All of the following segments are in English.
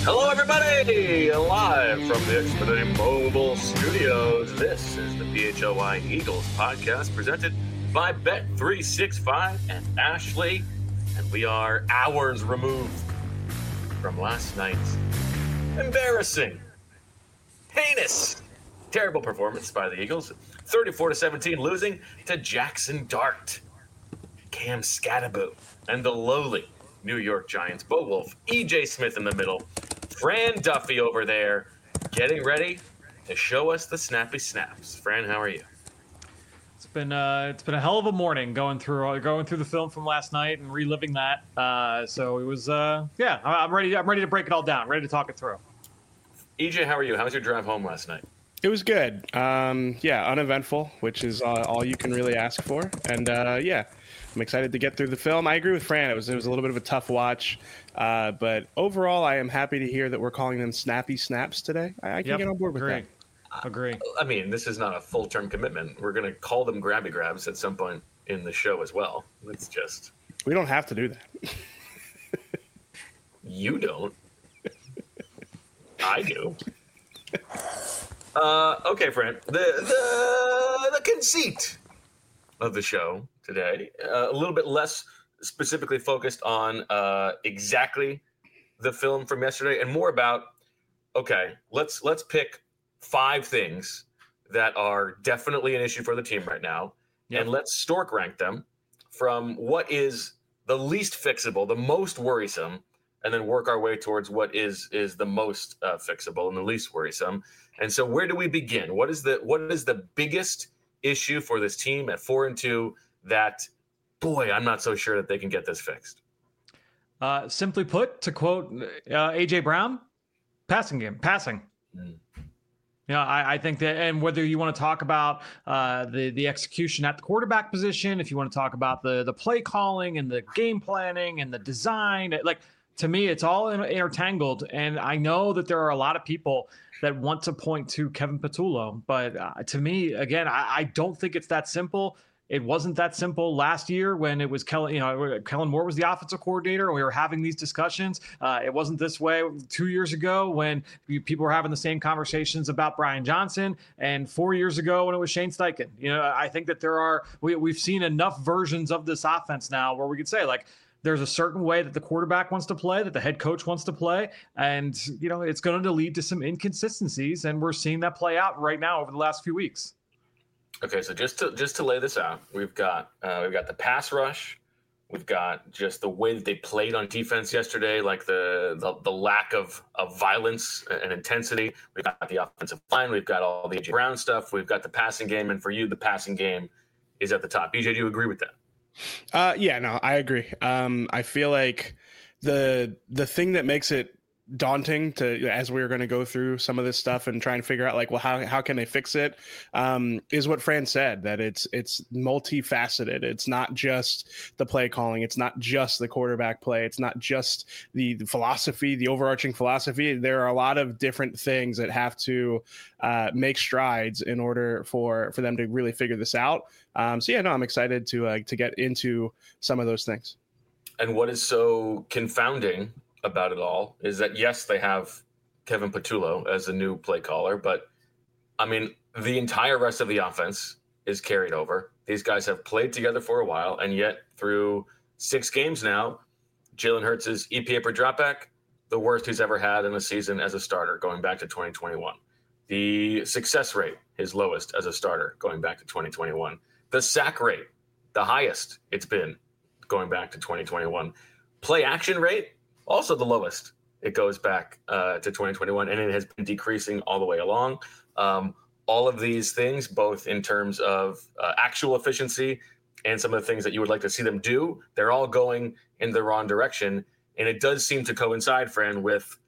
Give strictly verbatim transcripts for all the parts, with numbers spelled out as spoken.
Hello, everybody! Live from the Xfinity Mobile Studios, this is the P H O I Eagles podcast presented by Bet three sixty-five and Ashley, and we are hours removed from last night's embarrassing, heinous, terrible performance by the Eagles, thirty-four to seventeen, losing to Jackson Dart, Cam Scattaboo, and the lowly New York Giants. Bo Wolf, E J Smith in the middle, Fran Duffy over there, getting ready to show us the snappy snaps. Fran, how are you? It's been uh, it's been a hell of a morning going through going through the film from last night and reliving that. Uh, so it was uh, yeah, I'm ready. I'm ready to break it all down. Ready to talk it through. E J, how are you? How was your drive home last night? It was good. Um, yeah, uneventful, which is uh, all you can really ask for. And uh, yeah, I'm excited to get through the film. I agree with Fran. It was it was a little bit of a tough watch, uh, but overall, I am happy to hear that we're calling them snappy snaps today. I, I can Yep, get on board with agree. that. Agree. I mean, this is not a full-term commitment. We're going to call them grabby grabs at some point in the show as well. It's just... We don't have to do that. You don't. I do. Uh, okay, Fran. The, the, the conceit of the show today, uh, a little bit less specifically focused on uh, exactly the film from yesterday and more about, okay, let's let's pick five things that are definitely an issue for the team right now, Yep. and let's stork rank them from what is the least fixable, the most worrisome, and then work our way towards what is is the most uh, fixable and the least worrisome. And so where do we begin? What is the what is the biggest issue for this team at four and two that, boy, I'm not so sure that they can get this fixed? Uh, simply put, to quote uh, A J Brown, passing game, passing. Mm. You know, I, I think that, and whether you want to talk about uh, the the execution at the quarterback position, if you want to talk about the the play calling and the game planning and the design, like, to me, it's all intertangled. And I know that there are a lot of people that want to point to Kevin Patullo, but uh, to me, again, I, I don't think it's that simple. It wasn't that simple last year when it was Kellen, you know, Kellen Moore was the offensive coordinator and we were having these discussions. Uh, it wasn't this way two years ago when people were having the same conversations about Brian Johnson, and four years ago when it was Shane Steichen. You know, I think that there are, we, we've seen enough versions of this offense now where we could say, like, there's a certain way that the quarterback wants to play, that the head coach wants to play. And, you know, it's going to lead to some inconsistencies. And we're seeing that play out right now over the last few weeks. Okay, so just to just to lay this out, we've got uh, we've got the pass rush, we've got just the way that they played on defense yesterday, like the the, the lack of, of violence and intensity. We've got the offensive line, we've got all the A J Brown stuff, we've got the passing game, and for you, the passing game is at the top. E J, do you agree with that? Uh, yeah, no, I agree. Um, I feel like the the thing that makes it daunting to, as we were going to go through some of this stuff and try and figure out, like, well, how how can they fix it, um, is what Fran said, that it's it's multifaceted. It's not just the play calling. It's not just the quarterback play. It's not just the, the philosophy, the overarching philosophy. There are a lot of different things that have to uh, make strides in order for for them to really figure this out. Um, so yeah, no, I'm excited to uh, to get into some of those things. And what is so confounding about it all is that, yes, they have Kevin Patullo as a new play caller, but I mean, the entire rest of the offense is carried over. These guys have played together for a while, and yet through six games now, Jalen Hurts' E P A per dropback, the worst he's ever had in a season as a starter going back to twenty twenty-one. The success rate, his lowest as a starter going back to twenty twenty-one. The sack rate, the highest it's been going back to twenty twenty-one. Play action rate, also the lowest. It goes back uh, to twenty twenty-one, and it has been decreasing all the way along. Um, all of these things, both in terms of uh, actual efficiency and some of the things that you would like to see them do, they're all going in the wrong direction. And it does seem to coincide, Fran, with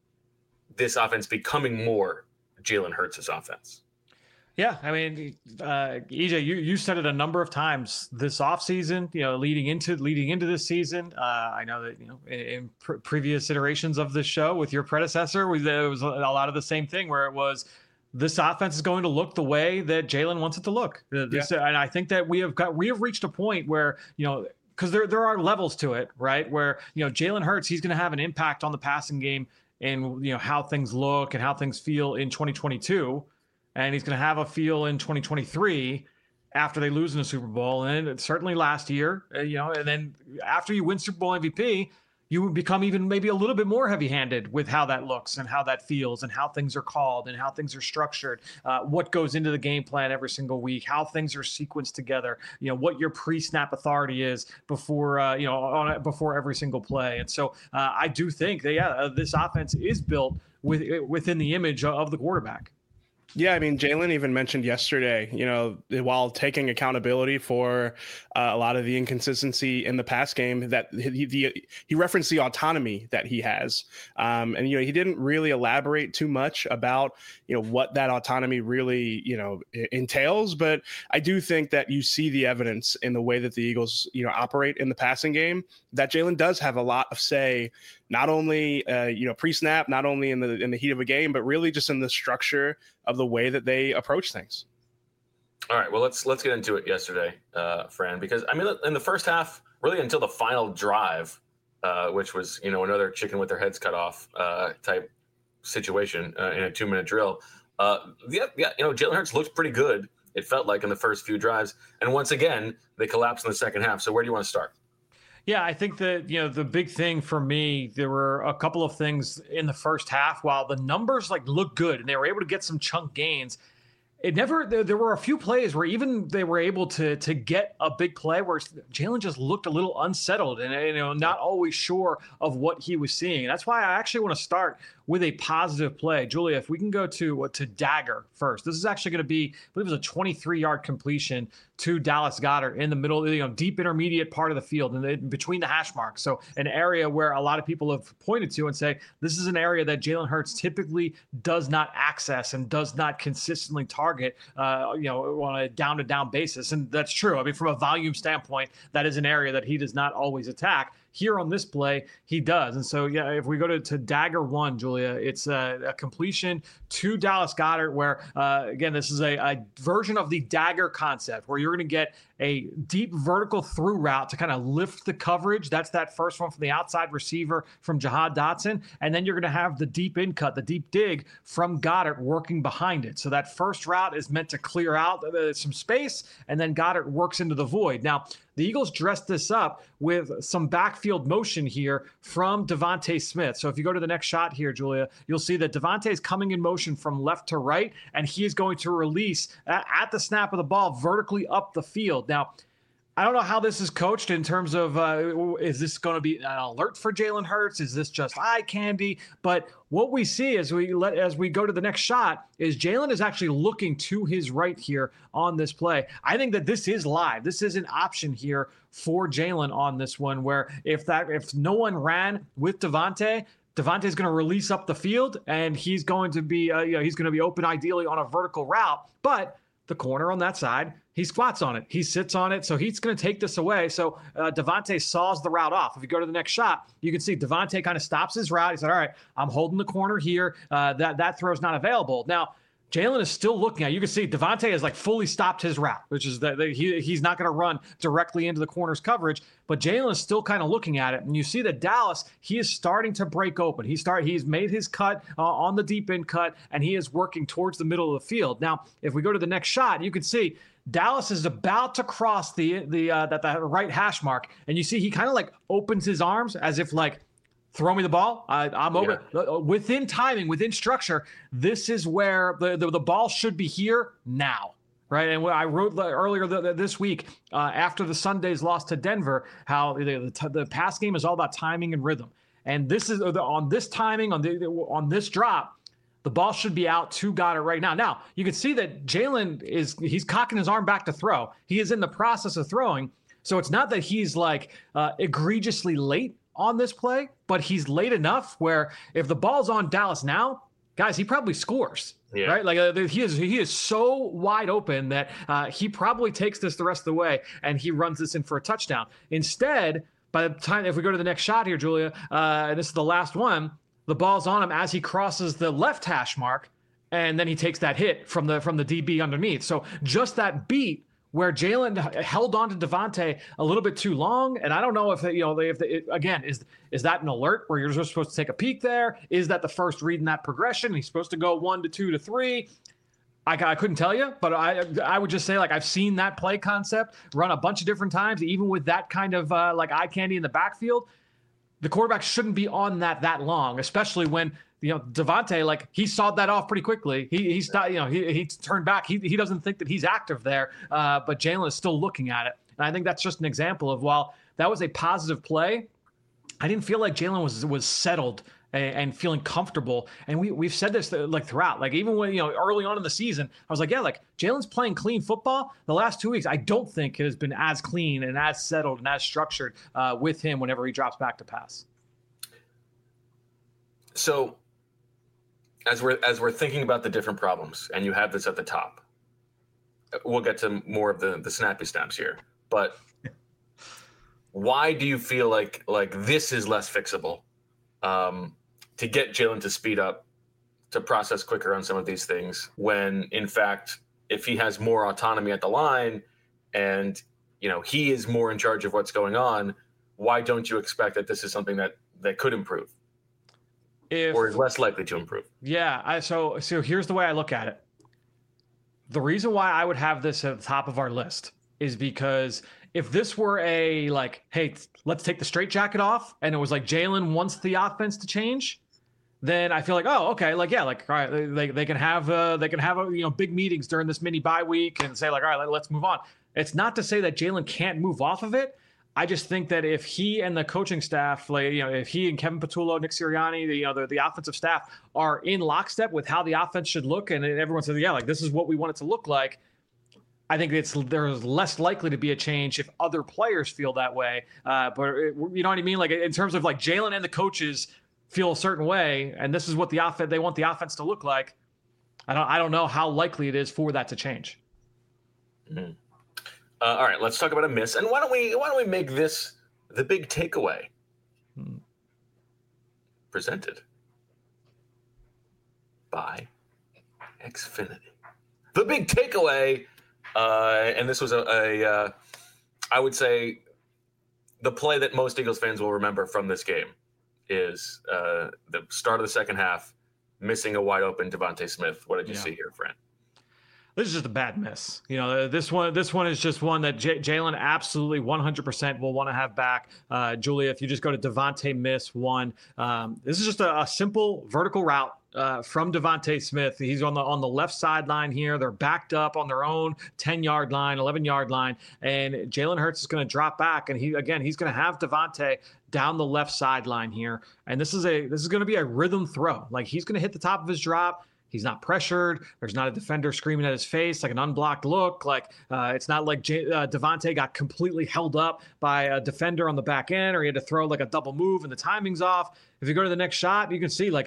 this offense becoming more Jalen Hurts' offense. Yeah, I mean, uh, E J, you you said it a number of times this offseason, you know, leading into leading into this season. Uh, I know that, you know, in, in pr- previous iterations of this show with your predecessor, we, there was a lot of the same thing where it was, this offense is going to look the way that Jalen wants it to look. This, yeah. And I think that we have got we have reached a point where, you know, because there there are levels to it, right? Where, you know, Jalen Hurts, he's going to have an impact on the passing game in, you know, how things look and how things feel in twenty twenty-two, and he's going to have a feel in twenty twenty-three after they lose in the Super Bowl, and certainly last year, uh, you know, and then after you win Super Bowl M V P, you become even maybe a little bit more heavy-handed with how that looks and how that feels and how things are called and how things are structured, uh, what goes into the game plan every single week, how things are sequenced together, you know, what your pre-snap authority is before, uh, you know, on before every single play. And so uh, I do think that, yeah, uh, this offense is built with, within the image of the quarterback. Yeah, I mean, Jalen even mentioned yesterday, you know, while taking accountability for uh, a lot of the inconsistency in the pass game, that he, the, he referenced the autonomy that he has. Um, and, you know, he didn't really elaborate too much about, you know, what that autonomy really, you know, entails. But I do think that you see the evidence in the way that the Eagles, you know, operate in the passing game, that Jalen does have a lot of say, not only, uh, you know, pre-snap, not only in the in the heat of a game, but really just in the structure of the way that they approach things. All right, well, let's let's get into it yesterday, uh, Fran, because, I mean, in the first half, really until the final drive, uh, which was, you know, another chicken with their heads cut off uh, type situation uh, in a two-minute drill, uh, yeah, yeah, you know, Jalen Hurts looked pretty good, it felt like, in the first few drives. And once again, they collapsed in the second half. So where do you want to start? Yeah, I think that, you know, the big thing for me, there were a couple of things in the first half. While the numbers like look good and they were able to get some chunk gains, it never, there, there were a few plays where even they were able to to get a big play where Jalen just looked a little unsettled and, you know, not always sure of what he was seeing. And that's why I actually want to start with a positive play. Julia, if we can go to to Dagger first. This is actually going to be, I believe it was a twenty-three-yard completion to Dallas Goedert in the middle, you know, deep intermediate part of the field and in between the hash marks. So an area where a lot of people have pointed to and say, this is an area that Jalen Hurts typically does not access and does not consistently target, uh, you know, on a down-to-down basis. And that's true. I mean, from a volume standpoint, that is an area that he does not always attack. Here on this play, he does. And so, yeah, if we go to, to Dagger one, Julia, it's a, a completion to Dallas Goedert where, uh, again, this is a, a version of the Dagger concept where you're going to get a deep vertical through route to kind of lift the coverage. That's that first one from the outside receiver from Jahan Dotson. And then you're going to have the deep in cut, the deep dig from Goedert working behind it. So that first route is meant to clear out uh, some space, and then Goedert works into the void. Now, the Eagles dressed this up with some backfield motion here from Devontae Smith. So if you go to the next shot here, Julia, you'll see that Devontae is coming in motion from left to right, and he is going to release at, at the snap of the ball vertically up the field. Now, I don't know how this is coached in terms of uh, is this going to be an alert for Jalen Hurts? Is this just eye candy? But what we see as we let as we go to the next shot is Jalen is actually looking to his right here on this play. I think that this is live. This is an option here for Jalen on this one, where if that if no one ran with Devontae, Devontae's going to release up the field and he's going to be uh, you know, he's going to be open ideally on a vertical route, but the corner on that side, he squats on it. He sits on it. So he's going to take this away. So uh, Devontae saws the route off. If you go to the next shot, you can see Devontae kind of stops his route. He said, all right, I'm holding the corner here. Uh, that, that throw's not available. Now, Jalen is still looking at it. You can see Devontae has like fully stopped his route, which is that he, he's not going to run directly into the corner's coverage, but Jalen is still kind of looking at it. And you see that Dallas, he is starting to break open. He start, he's made his cut uh, on the deep end cut, and he is working towards the middle of the field. Now, if we go to the next shot, you can see Dallas is about to cross the, the, uh, that, the right hash mark. And you see, he kind of like opens his arms as if like, throw me the ball. I, I'm over yeah. Within timing, within structure. This is where the, the, the ball should be here now, right? And I wrote earlier the, the, this week uh, after the Sunday's loss to Denver, how the, the, the pass game is all about timing and rhythm. And this is on this timing, on the on this drop, the ball should be out to Goedert right now. Now, you can see that Jalen is he's cocking his arm back to throw. He is in the process of throwing. So it's not that he's like uh, egregiously late on this play, but he's late enough where if the ball's on Dallas now, guys, he probably scores, yeah. right? Like uh, he is he is so wide open that uh, he probably takes this the rest of the way and he runs this in for a touchdown. Instead, by the time, if we go to the next shot here, Julia, uh, and this is the last one, the ball's on him as he crosses the left hash mark, and then he takes that hit from the from the D B underneath. So just that beat where Jalen held on to Devontae a little bit too long. And I don't know if, they, you know, if they, it, again, is is that an alert where you're just supposed to take a peek there? Is that the first read in that progression? He's supposed to go one to two to three. I, I couldn't tell you, but I I would just say, like, I've seen that play concept run a bunch of different times, even with that kind of uh, like eye candy in the backfield. The quarterback shouldn't be on that that long, especially when, you know, Devontae, like, he sawed that off pretty quickly. He he stopped, you know, he he turned back. He he doesn't think that he's active there, uh, but Jalen is still looking at it. And I think that's just an example of, while that was a positive play, I didn't feel like Jalen was was settled and feeling comfortable. And we, we've said this like throughout, like even when, you know, early on in the season, I was like, yeah, like Jalen's playing clean football. The last two weeks, I don't think it has been as clean and as settled and as structured uh, with him whenever he drops back to pass. So as we're, as we're thinking about the different problems, and you have this at the top, we'll get to more of the, the snappy snaps here, but why do you feel like, like this is less fixable? Um, to get Jalen to speed up, to process quicker on some of these things, when in fact, if he has more autonomy at the line and, you know, he is more in charge of what's going on, why don't you expect that this is something that, that could improve if, or is less likely to improve? Yeah. I, so, so here's the way I look at it. The reason why I would have this at the top of our list is because if this were a, like, hey, let's take the straitjacket off, and it was like Jalen wants the offense to change, then I feel like, oh, okay, like, yeah, like, all right, they, they can have uh, they can have uh, you know, big meetings during this mini bye week and say, like, all right, let's move on. It's not to say that Jalen can't move off of it. I just think that if he and the coaching staff, like, you know, if he and Kevin Patullo, Nick Sirianni, the, you know, the, the offensive staff are in lockstep with how the offense should look, and everyone says, yeah, like, this is what we want it to look like, I think it's there's less likely to be a change if other players feel that way. Uh, but it, you know what I mean? Like, in terms of, like, Jalen and the coaches feel a certain way, and this is what the offense they want the offense to look like. I don't I don't know how likely it is for that to change. Mm-hmm. Uh, all right, let's talk about a miss, and why don't we why don't we make this the big takeaway? Hmm. Presented by Xfinity. The big takeaway. Uh, and this was a, a uh, I would say, the play that most Eagles fans will remember from this game is uh, the start of the second half, missing a wide open Devontae Smith. What did you yeah. see here, Fran? This is just a bad miss. You know, this one, this one is just one that J- Jalen absolutely one hundred percent will want to have back. Uh, Julia, if you just go to Devontae miss one, um, this is just a, a simple vertical route uh, from Devontae Smith. He's on the on the left sideline here. They're backed up on their own ten-yard line, eleven-yard line, and Jalen Hurts is going to drop back, and he again he's going to have Devontae down the left sideline here, and this is a this is going to be a rhythm throw. Like, he's going to hit the top of his drop. He's not pressured. There's not a defender screaming at his face, like an unblocked look. Like, uh, it's not like J- uh, Devontae got completely held up by a defender on the back end, or he had to throw like a double move and the timing's off. If you go to the next shot, you can see, like,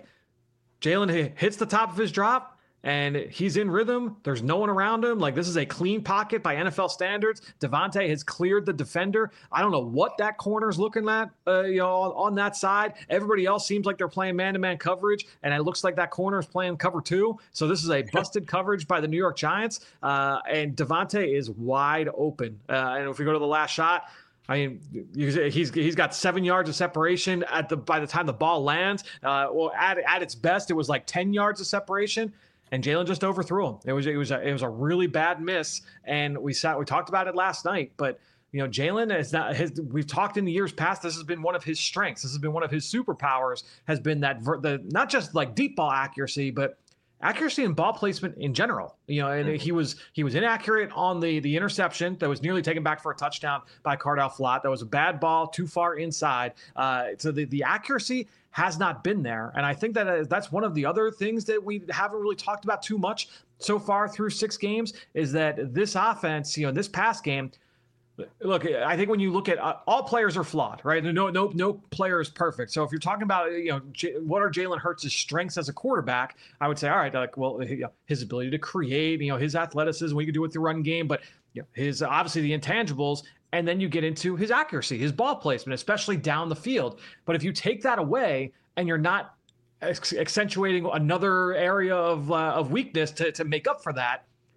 Jalen hits the top of his drop and he's in rhythm. There's no one around him. Like, this is a clean pocket by N F L standards. Devontae has cleared the defender. I don't know what that corner's looking at, uh, you know, on, on that side. Everybody else seems like they're playing man-to-man coverage, and it looks like that corner is playing cover two. So this is a busted coverage by the New York Giants, uh, and Devontae is wide open. Uh, and if we go to the last shot, I mean, he's he's got seven yards of separation at the by the time the ball lands. Uh, well, at at its best, it was like ten yards of separation. And Jalen just overthrew him. It was it was a, it was a really bad miss, and we sat we talked about it last night. But, you know, Jalen is not his. We've talked in the years past. This has been one of his strengths. This has been one of his superpowers. Has been that ver, the not just like deep ball accuracy, but accuracy and ball placement in general. You know, and mm-hmm. he was he was inaccurate on the the interception that was nearly taken back for a touchdown by Cardale Flott. That was a bad ball, too far inside. Uh, so the the accuracy has not been there. And I think that uh, that's one of the other things that we haven't really talked about too much so far through six games is that this offense, you know, this past game, look, I think when you look at uh, all players are flawed, right? No, no, no player is perfect. So if you're talking about, you know, J- what are Jalen Hurts' strengths as a quarterback, I would say, all right, like, well, his ability to create, you know, his athleticism, we could do it with the run game, but you know, his obviously the intangibles. And then you get into his accuracy, his ball placement, especially down the field. But if you take that away and you're not accentuating another area of uh, of weakness to, to make up for that,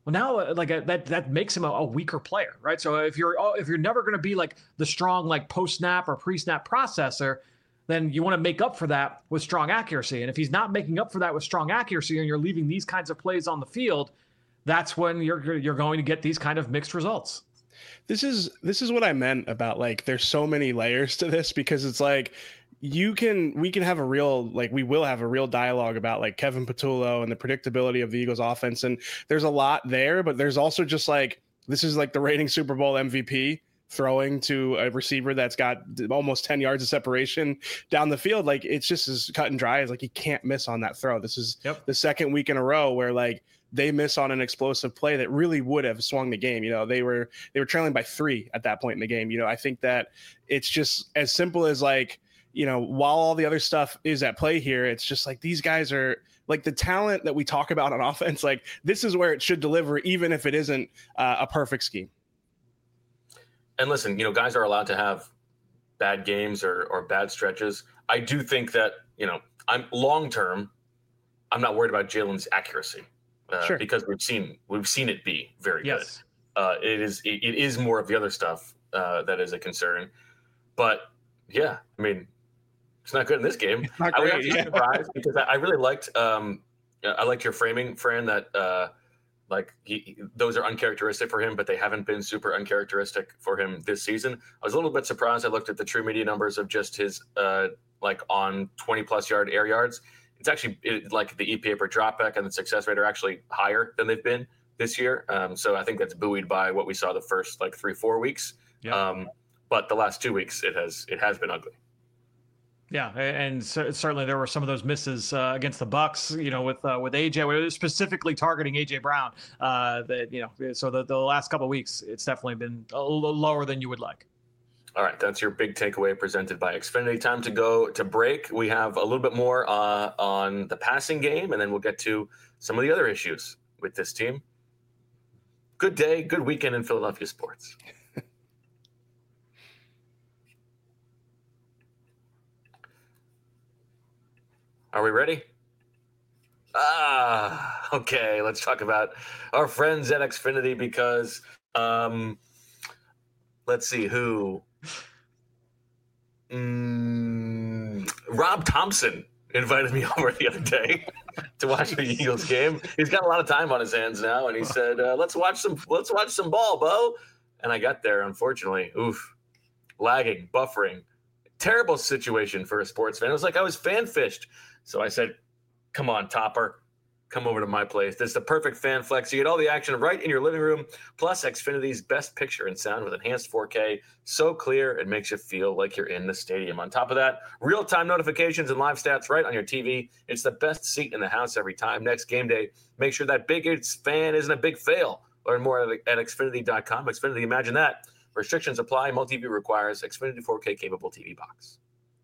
Well, now uh, like uh, that that makes him a, a weaker player, right? So if you're oh, if you're never going to be like the strong like post snap or pre snap processor, then you want to make up for that with strong accuracy. And if he's not making up for that with strong accuracy, and you're leaving these kinds of plays on the field, that's when you're you're going to get these kind of mixed results. This is this is what I meant about like there's so many layers to this, because it's like you can we can have a real like we will have a real dialogue about like Kevin Patullo and the predictability of the Eagles offense, and there's a lot there, but there's also just like this is like the reigning Super Bowl M V P throwing to a receiver that's got almost ten yards of separation down the field. Like it's just as cut and dry as like he can't miss on that throw. This is yep. the second week in a row where like they miss on an explosive play that really would have swung the game. You know, they were they were trailing by three at that point in the game. You know, I think that it's just as simple as like, you know, while all the other stuff is at play here, it's just like these guys are like the talent that we talk about on offense. Like this is where it should deliver, even if it isn't uh, a perfect scheme. And listen, you know, guys are allowed to have bad games or or bad stretches. I do think that, you know, I'm long term, I'm not worried about Jalen's accuracy. Uh, sure. Because we've seen we've seen it be very yes. good. Uh, it is it, it is more of the other stuff uh, that is a concern. But yeah, I mean, it's not good in this game. It's not I was great, actually yeah. surprised because I, I really liked um, I liked your framing, Fran. That uh, like he, those are uncharacteristic for him, but they haven't been super uncharacteristic for him this season. I was a little bit surprised. I looked at the true media numbers of just his uh, like on twenty plus yard air yards. It's actually it, like the E P A per dropback and the success rate are actually higher than they've been this year. Um, so I think that's buoyed by what we saw the first like three, four weeks. Yeah. Um, but the last two weeks, it has it has been ugly. Yeah, and so, certainly there were some of those misses uh, against the Bucks. You know, with uh, with A J, we were specifically targeting A J Brown. Uh, that you know, so the, the last couple of weeks, it's definitely been a little lower than you would like. All right, that's your big takeaway presented by Xfinity. Time to go to break. We have a little bit more uh, on the passing game, and then we'll get to some of the other issues with this team. Good day, good weekend in Philadelphia sports. Are we ready? Ah, okay. Let's talk about our friends at Xfinity because um, let's see who. Mm, Rob Thompson invited me over the other day to watch the Eagles game. He's got a lot of time on his hands now, and he said, uh, "Let's watch some. Let's watch some ball, Bo." And I got there, unfortunately. Oof, lagging, buffering, terrible situation for a sports fan. It was like I was fan fished. So I said, "Come on, Topper. Come over to my place. This is the perfect fan flex. You get all the action right in your living room, plus Xfinity's best picture and sound with enhanced four K. So clear, it makes you feel like you're in the stadium. On top of that, real-time notifications and live stats right on your T V. It's the best seat in the house every time. Next game day, make sure that big fan isn't a big fail. Learn more at, at Xfinity dot com. Xfinity, imagine that. Restrictions apply. Multi-view requires Xfinity four K capable T V box.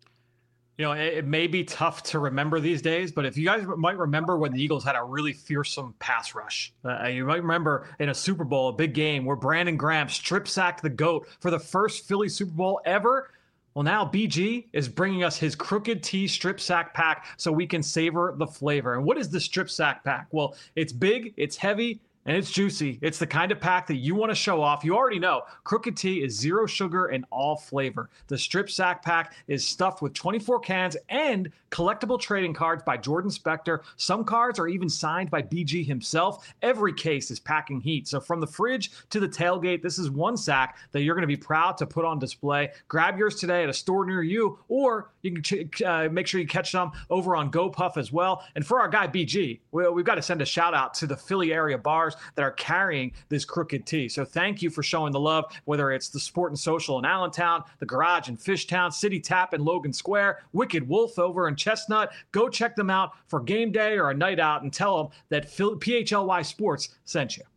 You know, it, it may be tough to remember these days, but if you guys might remember when the Eagles had a really fearsome pass rush, uh, you might remember in a Super Bowl, a big game where Brandon Graham strip sacked the GOAT for the first Philly Super Bowl ever. Well, now B G is bringing us his Crooked T strip sack pack so we can savor the flavor. And what is the strip sack pack? Well, it's big, it's heavy, and it's juicy. It's the kind of pack that you want to show off. You already know Crooked Tea is zero sugar and all flavor. The strip sack pack is stuffed with twenty-four cans and collectible trading cards by Jordan Spector. Some cards are even signed by B G himself. Every case is packing heat. So from the fridge to the tailgate, this is one sack that you're going to be proud to put on display. Grab yours today at a store near you, or you can ch- uh, make sure you catch them over on GoPuff as well. And for our guy B G, we, we've got to send a shout out to the Philly area bars that are carrying this Crooked Tea. So thank you for showing the love, whether it's the Sport and Social in Allentown, the Garage in Fishtown, City Tap in Logan Square, Wicked Wolf over in Chestnut. Go check them out for game day or a night out and tell them that P H L Y Sports sent you.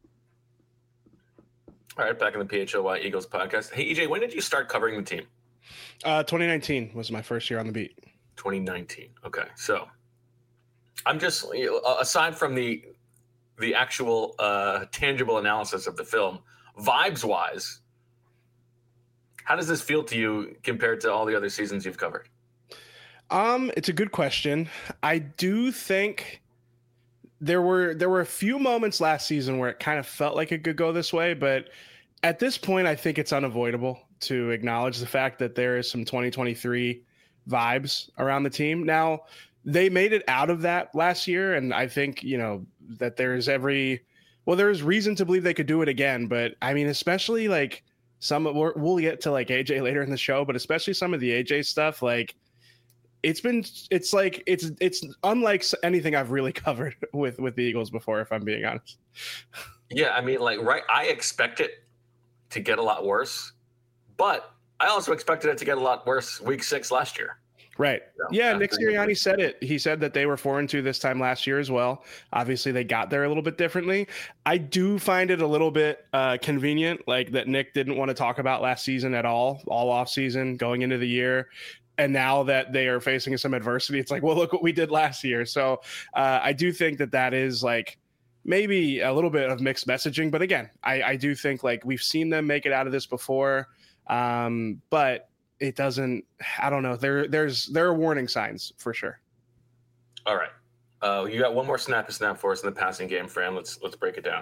All right, back in the P H L Y Eagles podcast. Hey, E J, when did you start covering the team? Uh, twenty nineteen was my first year on the beat. twenty nineteen. Okay, so I'm just, you know, aside from the the actual uh, tangible analysis of the film, vibes-wise, how does this feel to you compared to all the other seasons you've covered? Um, it's a good question. I do think there were there were a few moments last season where it kind of felt like it could go this way, but at this point, I think it's unavoidable to acknowledge the fact that there is some twenty twenty-three vibes around the team. Now, they made it out of that last year, and I think, you know, that there's every well, there's reason to believe they could do it again. But I mean, especially like some we're, we'll get to like A J later in the show, but especially some of the A J stuff, like it's been it's like it's it's unlike anything I've really covered with with the Eagles before, if I'm being honest. Yeah, I mean, like, right, I expect it to get a lot worse, but I also expected it to get a lot worse week six last year. Right. So, yeah, Nick Sirianni said it. He said that they were four and two this time last year as well. Obviously, they got there a little bit differently. I do find it a little bit uh, convenient, like that Nick didn't want to talk about last season at all, all off season, going into the year. And now that they are facing some adversity, it's like, well, look what we did last year. So uh, I do think that that is like maybe a little bit of mixed messaging. But again, I, I do think like we've seen them make it out of this before. Um, but it doesn't, I don't know. There, there's, there are warning signs for sure. All right. Uh, you got one more snap to snap for us in the passing game, Fran. Let's, let's break it down.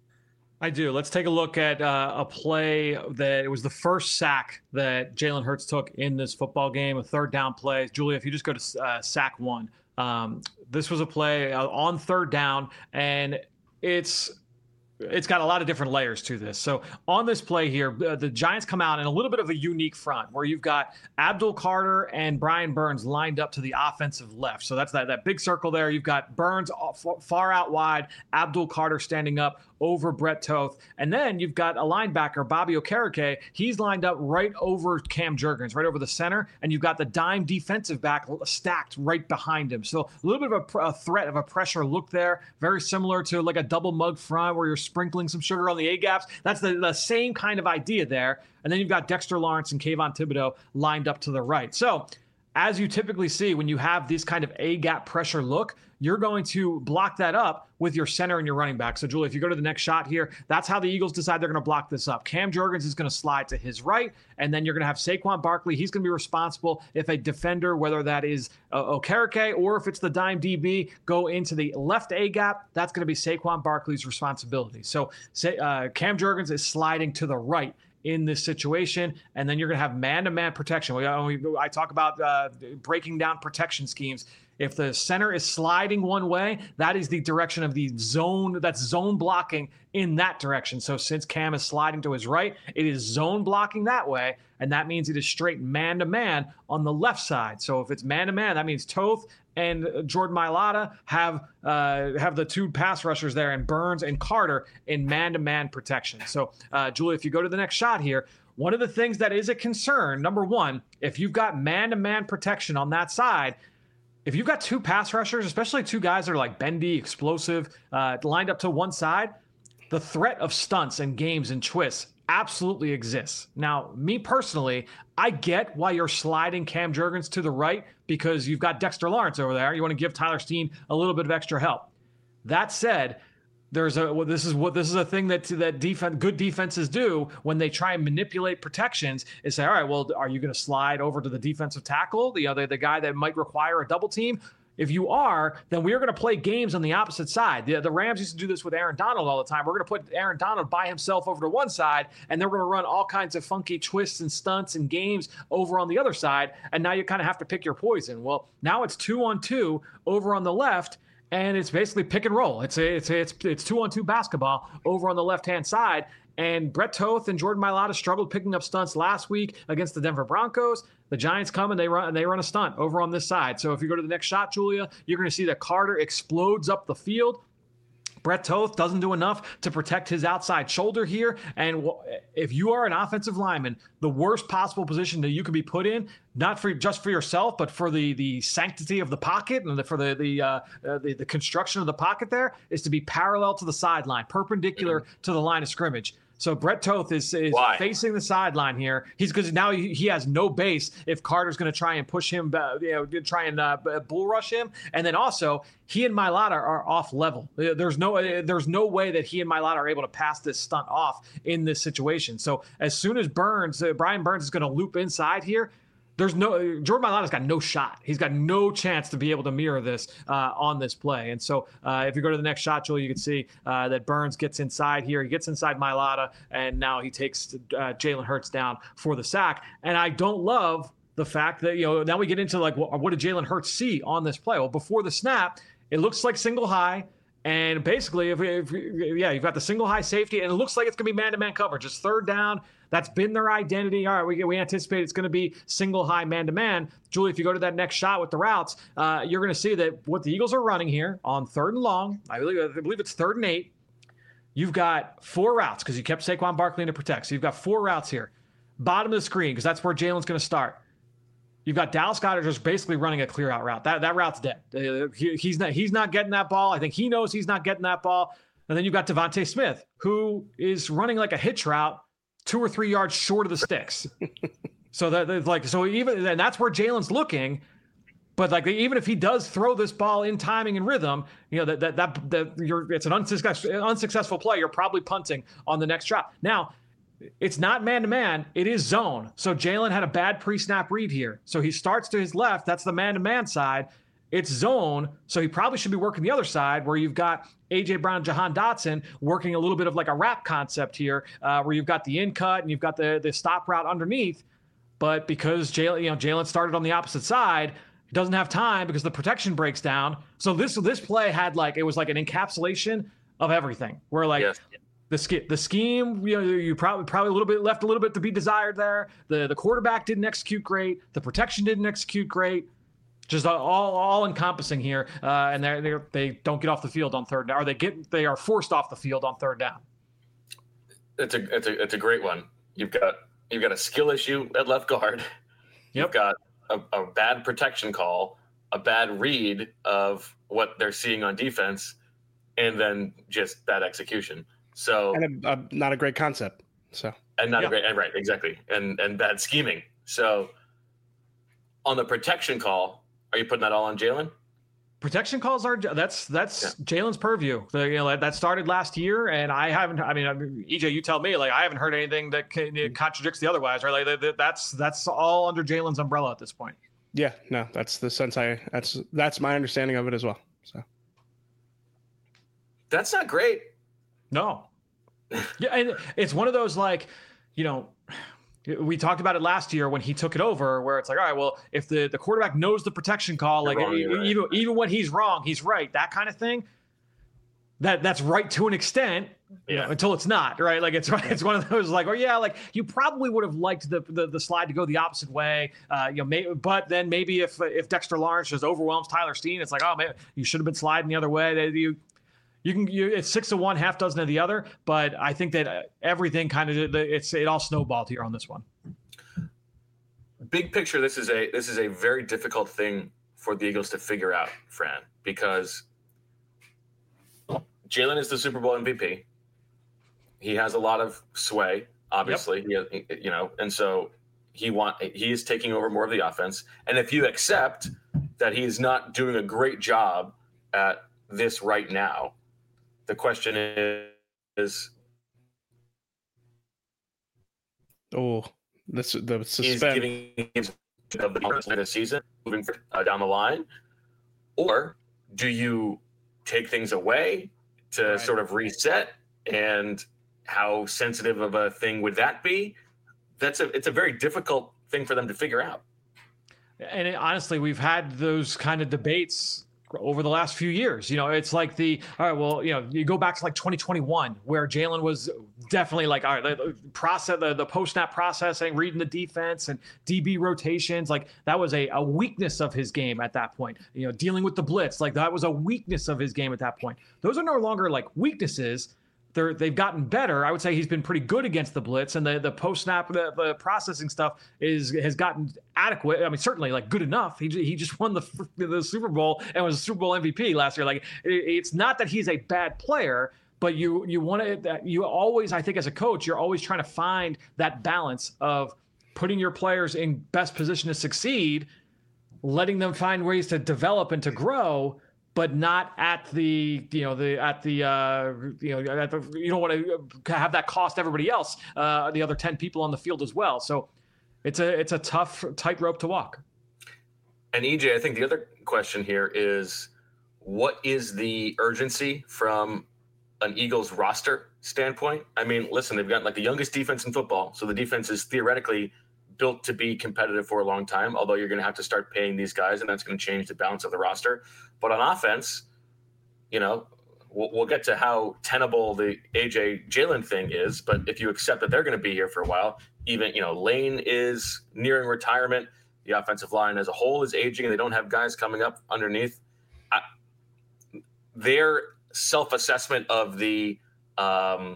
I do. Let's take a look at uh, a play that it was the first sack that Jalen Hurts took in this football game, a third down play. Julia, if you just go to uh, sack one, um, this was a play uh, on third down, and it's it's got a lot of different layers to this. So on this play here, uh, the Giants come out in a little bit of a unique front where you've got Abdul Carter and Brian Burns lined up to the offensive left. So that's that, that big circle there. You've got Burns far out wide, Abdul Carter standing up over Brett Toth. And then you've got a linebacker, Bobby Okereke. He's lined up right over Cam Jurgens, right over the center. And you've got the dime defensive back stacked right behind him. So a little bit of a, a threat of a pressure look there. Very similar to like a double mug front where you're sprinkling some sugar on the A-gaps. That's the, the same kind of idea there. And then you've got Dexter Lawrence and Kayvon Thibodeau lined up to the right. So as you typically see when you have this kind of A-gap pressure look, you're going to block that up with your center and your running back. So, Julie, if you go to the next shot here, that's how the Eagles decide they're going to block this up. Cam Jurgens is going to slide to his right, and then you're going to have Saquon Barkley. He's going to be responsible if a defender, whether that is uh, Okereke or if it's the dime D B, go into the left A-gap, that's going to be Saquon Barkley's responsibility. So say, uh, Cam Jurgens is sliding to the right in this situation, and then you're going to have man-to-man protection. We, I talk about uh, breaking down protection schemes. If the center is sliding one way, that is the direction of the zone. That's zone blocking in that direction. So since Cam is sliding to his right, it is zone blocking that way, and that means it is straight man-to-man on the left side. So if it's man-to-man, that means Toth and Jordan Mailata have uh, have the two pass rushers there, and Burns and Carter in man-to-man protection. So, uh, Julie, if you go to the next shot here, one of the things that is a concern, number one, if you've got man-to-man protection on that side, if you've got two pass rushers, especially two guys that are like bendy, explosive, uh, lined up to one side, the threat of stunts and games and twists absolutely exists. Now, me personally, I get why you're sliding Cam Jurgens to the right because you've got Dexter Lawrence over there. You want to give Tyler Steen a little bit of extra help. That said, there's a well, this is what this is a thing that that defense good defenses do when they try and manipulate protections is say, all right, well, are you going to slide over to the defensive tackle, the other the guy that might require a double team? If you are, then we are going to play games on the opposite side. The, the Rams used to do this with Aaron Donald all the time. We're going to put Aaron Donald by himself over to one side, and they're going to run all kinds of funky twists and stunts and games over on the other side, and now you kind of have to pick your poison. Well, now it's two on two over on the left, and it's basically pick and roll. It's a, it's a, it's it's two on two basketball over on the left hand side. And Brett Toth and Jordan Mailata struggled picking up stunts last week against the Denver Broncos. The Giants come and they run and they run a stunt over on this side. So if you go to the next shot, Julia, you're going to see that Carter explodes up the field. Brett Toth doesn't do enough to protect his outside shoulder here. And if you are an offensive lineman, the worst possible position that you could be put in, not for just for yourself, but for the the sanctity of the pocket and the, for the the, uh, uh, the the construction of the pocket there, is to be parallel to the sideline, perpendicular to the line of scrimmage. So Brett Toth is, is facing the sideline here. He's because now he, he has no base if Carter's going to try and push him, uh, you know, try and uh, bull rush him. And then also he and Mailata are off level. There's no there's no way that he and Mailata are able to pass this stunt off in this situation. So as soon as Burns, uh, Brian Burns is going to loop inside here, there's no Jordan Mailata's got no shot. He's got no chance to be able to mirror this uh, on this play. And so uh, if you go to the next shot, Joel, you can see uh, that Burns gets inside here. He gets inside Mailata, and now he takes uh, Jalen Hurts down for the sack. And I don't love the fact that, you know, now we get into like, what, what did Jalen Hurts see on this play? Well, before the snap, it looks like single high. And basically, if, if yeah, you've got the single high safety, and it looks like it's going to be man-to-man coverage. It's third down. That's been their identity. All right, we, we anticipate it's going to be single high man-to-man. Julie, if you go to that next shot with the routes, uh, you're going to see that what the Eagles are running here on third and long, I believe, I believe it's third and eight. You've got four routes because you kept Saquon Barkley in to protect. So you've got four routes here. Bottom of the screen, because that's where Jalen's going to start. You've got Dallas Goedert just basically running a clear out route. That that route's dead. Uh, he, he's not he's not getting that ball. I think he knows he's not getting that ball. And then you've got Devontae Smith, who is running like a hitch route, two or three yards short of the sticks. so that that's like so even and that's where Jalen's looking. But like even if he does throw this ball in timing and rhythm, you know that that that, that you're it's an unsuccessful unsuccessful play. You're probably punting on the next drop. Now, it's not man-to-man. It is zone. So Jalen had a bad pre-snap read here. So he starts to his left. That's the man-to-man side. It's zone. So he probably should be working the other side where you've got A J. Brown and Jahan Dotson working a little bit of like a wrap concept here uh, where you've got the in cut and you've got the, the stop route underneath. But because Jalen, you know, Jalen started on the opposite side, he doesn't have time because the protection breaks down. So this, this play had like, it was like an encapsulation of everything. Where like, yes. The sch- the scheme, you know, you probably probably a little bit left a little bit to be desired there. The the quarterback didn't execute great. The protection didn't execute great. Just all all encompassing here, uh, and they they they don't get off the field on third down, or they get they are forced off the field on third down. It's a it's a it's a great one. You've got you've got a skill issue at left guard. You've yep. got a, a bad protection call, a bad read of what they're seeing on defense, and then just bad execution. So and a, a, not a great concept. So and not yeah. a great and right exactly and and bad scheming. So on the protection call, are you putting that all on Jalen? Protection calls are that's that's yeah. Jalen's purview. The, you know that started last year, and I haven't. I mean, I mean, E J, you tell me. Like I haven't heard anything that can, contradicts the otherwise. Right? Like that, that's that's all under Jalen's umbrella at this point. Yeah, no, that's the sense I. That's that's my understanding of it as well. So that's not great. No. Yeah, and it's one of those like, you know, we talked about it last year when he took it over, where it's like, all right, well, if the, the quarterback knows the protection call, like wrong, even, right. even even when he's wrong, he's right, that kind of thing. That that's right to an extent, yeah. you know, until it's not, right? Like it's it's one of those like, oh yeah, like you probably would have liked the the, the slide to go the opposite way, uh, you know, may, but then maybe if if Dexter Lawrence just overwhelms Tyler Steen, it's like, oh man, you should have been sliding the other way. You. You can, you, it's six to one, half dozen of the other, but I think that everything kind of, it's, it all snowballed here on this one. Big picture. This is a, this is a very difficult thing for the Eagles to figure out, Fran, because Jalen is the Super Bowl M V P. He has a lot of sway, obviously, yep. he, you know, and so he want, he is taking over more of the offense. And if you accept that he is not doing a great job at this right now, the question is, oh, this the suspense. He's giving him the the season moving uh, down the line, or do you take things away to right. sort of reset? And how sensitive of a thing would that be? That's a it's a very difficult thing for them to figure out. And it, honestly, we've had those kind of debates over the last few years. You know, it's like the, all right, well, you know, you go back to like twenty twenty-one where Jalen was definitely like, all right, the process, the, the post-snap processing, reading the defense and D B rotations, like that was a, a weakness of his game at that point. You know, dealing with the blitz, like that was a weakness of his game at that point. Those are no longer like weaknesses. They're, they've gotten better. I would say he's been pretty good against the blitz, and the, the post-snap, the, the processing stuff is has gotten adequate. I mean, certainly like good enough. He he just won the the Super Bowl and was a Super Bowl M V P last year. Like it, it's not that he's a bad player, but you you want to you always, I think, as a coach, you're always trying to find that balance of putting your players in best position to succeed, letting them find ways to develop and to grow, but not at the, you know, the, at the, uh, you know, at the, you don't want to have that cost everybody else, uh, the other ten people on the field as well. So it's a it's a tough tightrope to walk. And E J, I think the other question here is, what is the urgency from an Eagles roster standpoint? I mean, listen, they've got like the youngest defense in football, so the defense is theoretically built to be competitive for a long time, although you're going to have to start paying these guys, and that's going to change the balance of the roster. But on offense, you know, we'll, we'll get to how tenable the A J Jalen thing is, but if you accept that they're going to be here for a while, even, you know, Lane is nearing retirement. The offensive line as a whole is aging, and they don't have guys coming up underneath. I, their self-assessment of the um,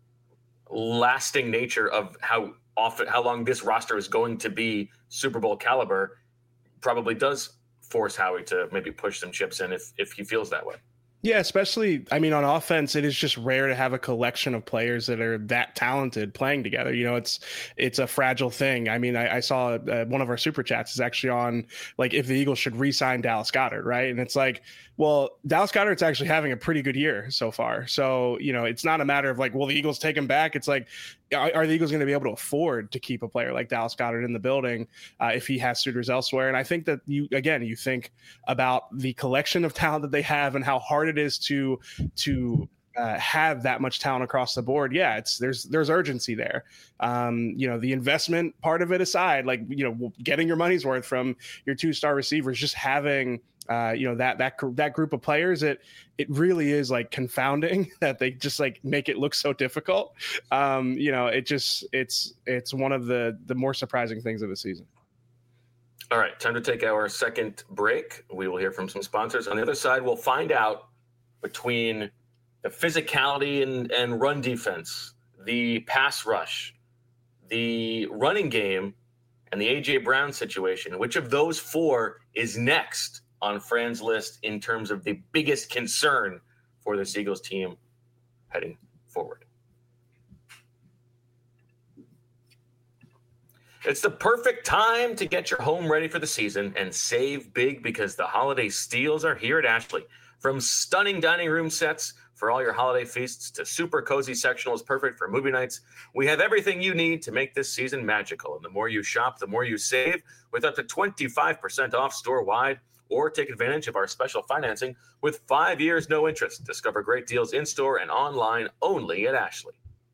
lasting nature of how often, how long this roster is going to be Super Bowl caliber probably does force Howie to maybe push some chips in if if he feels that way. Yeah, especially, I mean, on offense, it is just rare to have a collection of players that are that talented playing together. You know, it's it's a fragile thing. I mean, I, I saw uh, one of our super chats is actually on, like, if the Eagles should re-sign Dallas Goedert, right? And it's like, well, Dallas Goedert's actually having a pretty good year so far. So, you know, it's not a matter of like, will the Eagles take him back? It's like, are, are the Eagles going to be able to afford to keep a player like Dallas Goedert in the building uh, if he has suitors elsewhere? And I think that you, again, you think about the collection of talent that they have and how hard it is to, to, Uh, have that much talent across the board. Yeah, it's there's there's urgency there. Um, you know, the investment part of it aside, like, you know, getting your money's worth from your two-star receivers, just having uh, you know, that that that group of players, it it really is like confounding that they just like make it look so difficult. Um, you know, it just it's it's one of the the more surprising things of the season. All right, time to take our second break. We will hear from some sponsors. On the other side, we'll find out between the physicality and, and run defense, the pass rush, the running game, and the A J Brown situation. Which of those four is next on Fran's list in terms of the biggest concern for this Eagles team heading forward? It's the perfect time to get your home ready for the season and save big because the holiday steals are here at Ashley. From stunning dining room sets for all your holiday feasts to super cozy sectionals perfect for movie nights, we have everything you need to make this season magical. And the more you shop, the more you save, with up to twenty-five percent off store-wide, or take advantage of our special financing with five years no interest. Discover great deals in-store and online only at Ashley.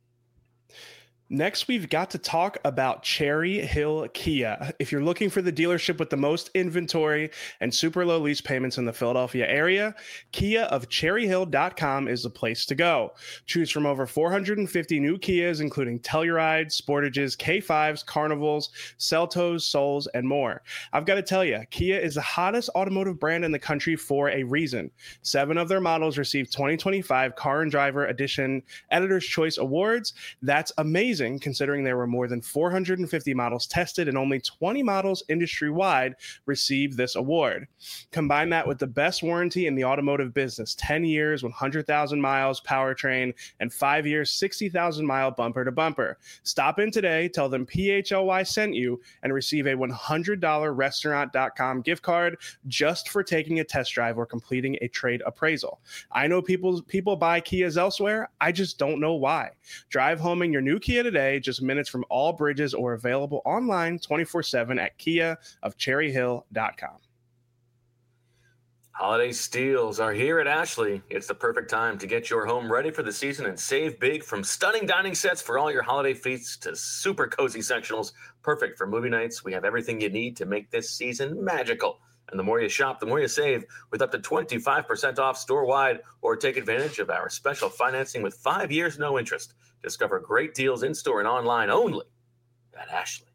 Next, we've got to talk about Cherry Hill Kia. If you're looking for the dealership with the most inventory and super low lease payments in the Philadelphia area, Kia of cherry hill dot com is the place to go. Choose from over four hundred fifty new Kias, including Tellurides, Sportages, K fives, Carnivals, Seltos, Souls, and more. I've got to tell you, Kia is the hottest automotive brand in the country for a reason. Seven of their models received twenty twenty-five Car and Driver Edition Editor's Choice Awards. That's amazing, considering there were more than four hundred fifty models tested and only twenty models industry-wide received this award. Combine that with the best warranty in the automotive business, ten years, one hundred thousand miles powertrain, and five years, sixty thousand mile bumper to bumper. Stop in today, tell them P H L Y sent you, and receive a one hundred dollars restaurant dot com gift card just for taking a test drive or completing a trade appraisal. I know people, people buy Kias elsewhere. I just don't know why. Drive home in your new Kia today, just minutes from all bridges, or available online twenty-four seven at kia of cherry hill dot com. Holiday steals are here at Ashley. It's the perfect time to get your home ready for the season and save big, from stunning dining sets for all your holiday feasts to super cozy sectionals perfect for movie nights. We have everything you need to make this season magical. And the more you shop, the more you save, with up to twenty-five percent off store-wide, or take advantage of our special financing with five years no interest. Discover great deals in-store and online only at Ashley.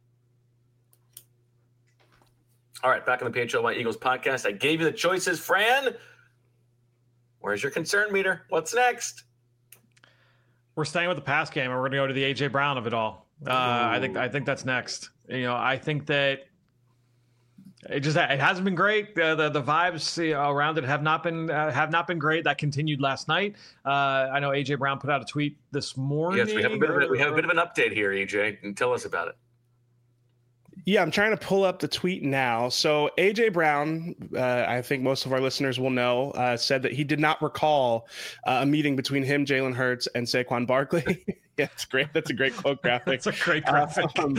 All right, back on the P H L Y Eagles podcast. I gave you the choices. Fran, where's your concern meter? What's next? We're staying with the pass game, and we're going to go to the A J Brown of it all. Uh, I think I think that's next. You know, I think that it just it hasn't been great. Uh, the the vibes you know, around it have not been uh, have not been great. That continued last night. Uh, I know A J Brown put out a tweet this morning. Yes, we have a bit of a, we have a bit of an update here, E J. And tell us about it. Yeah, I'm trying to pull up the tweet now. So A J Brown, uh, I think most of our listeners will know, uh, said that he did not recall uh, a meeting between him, Jalen Hurts, and Saquon Barkley Yeah, it's great. That's a great quote graphic. That's a great graphic. Um,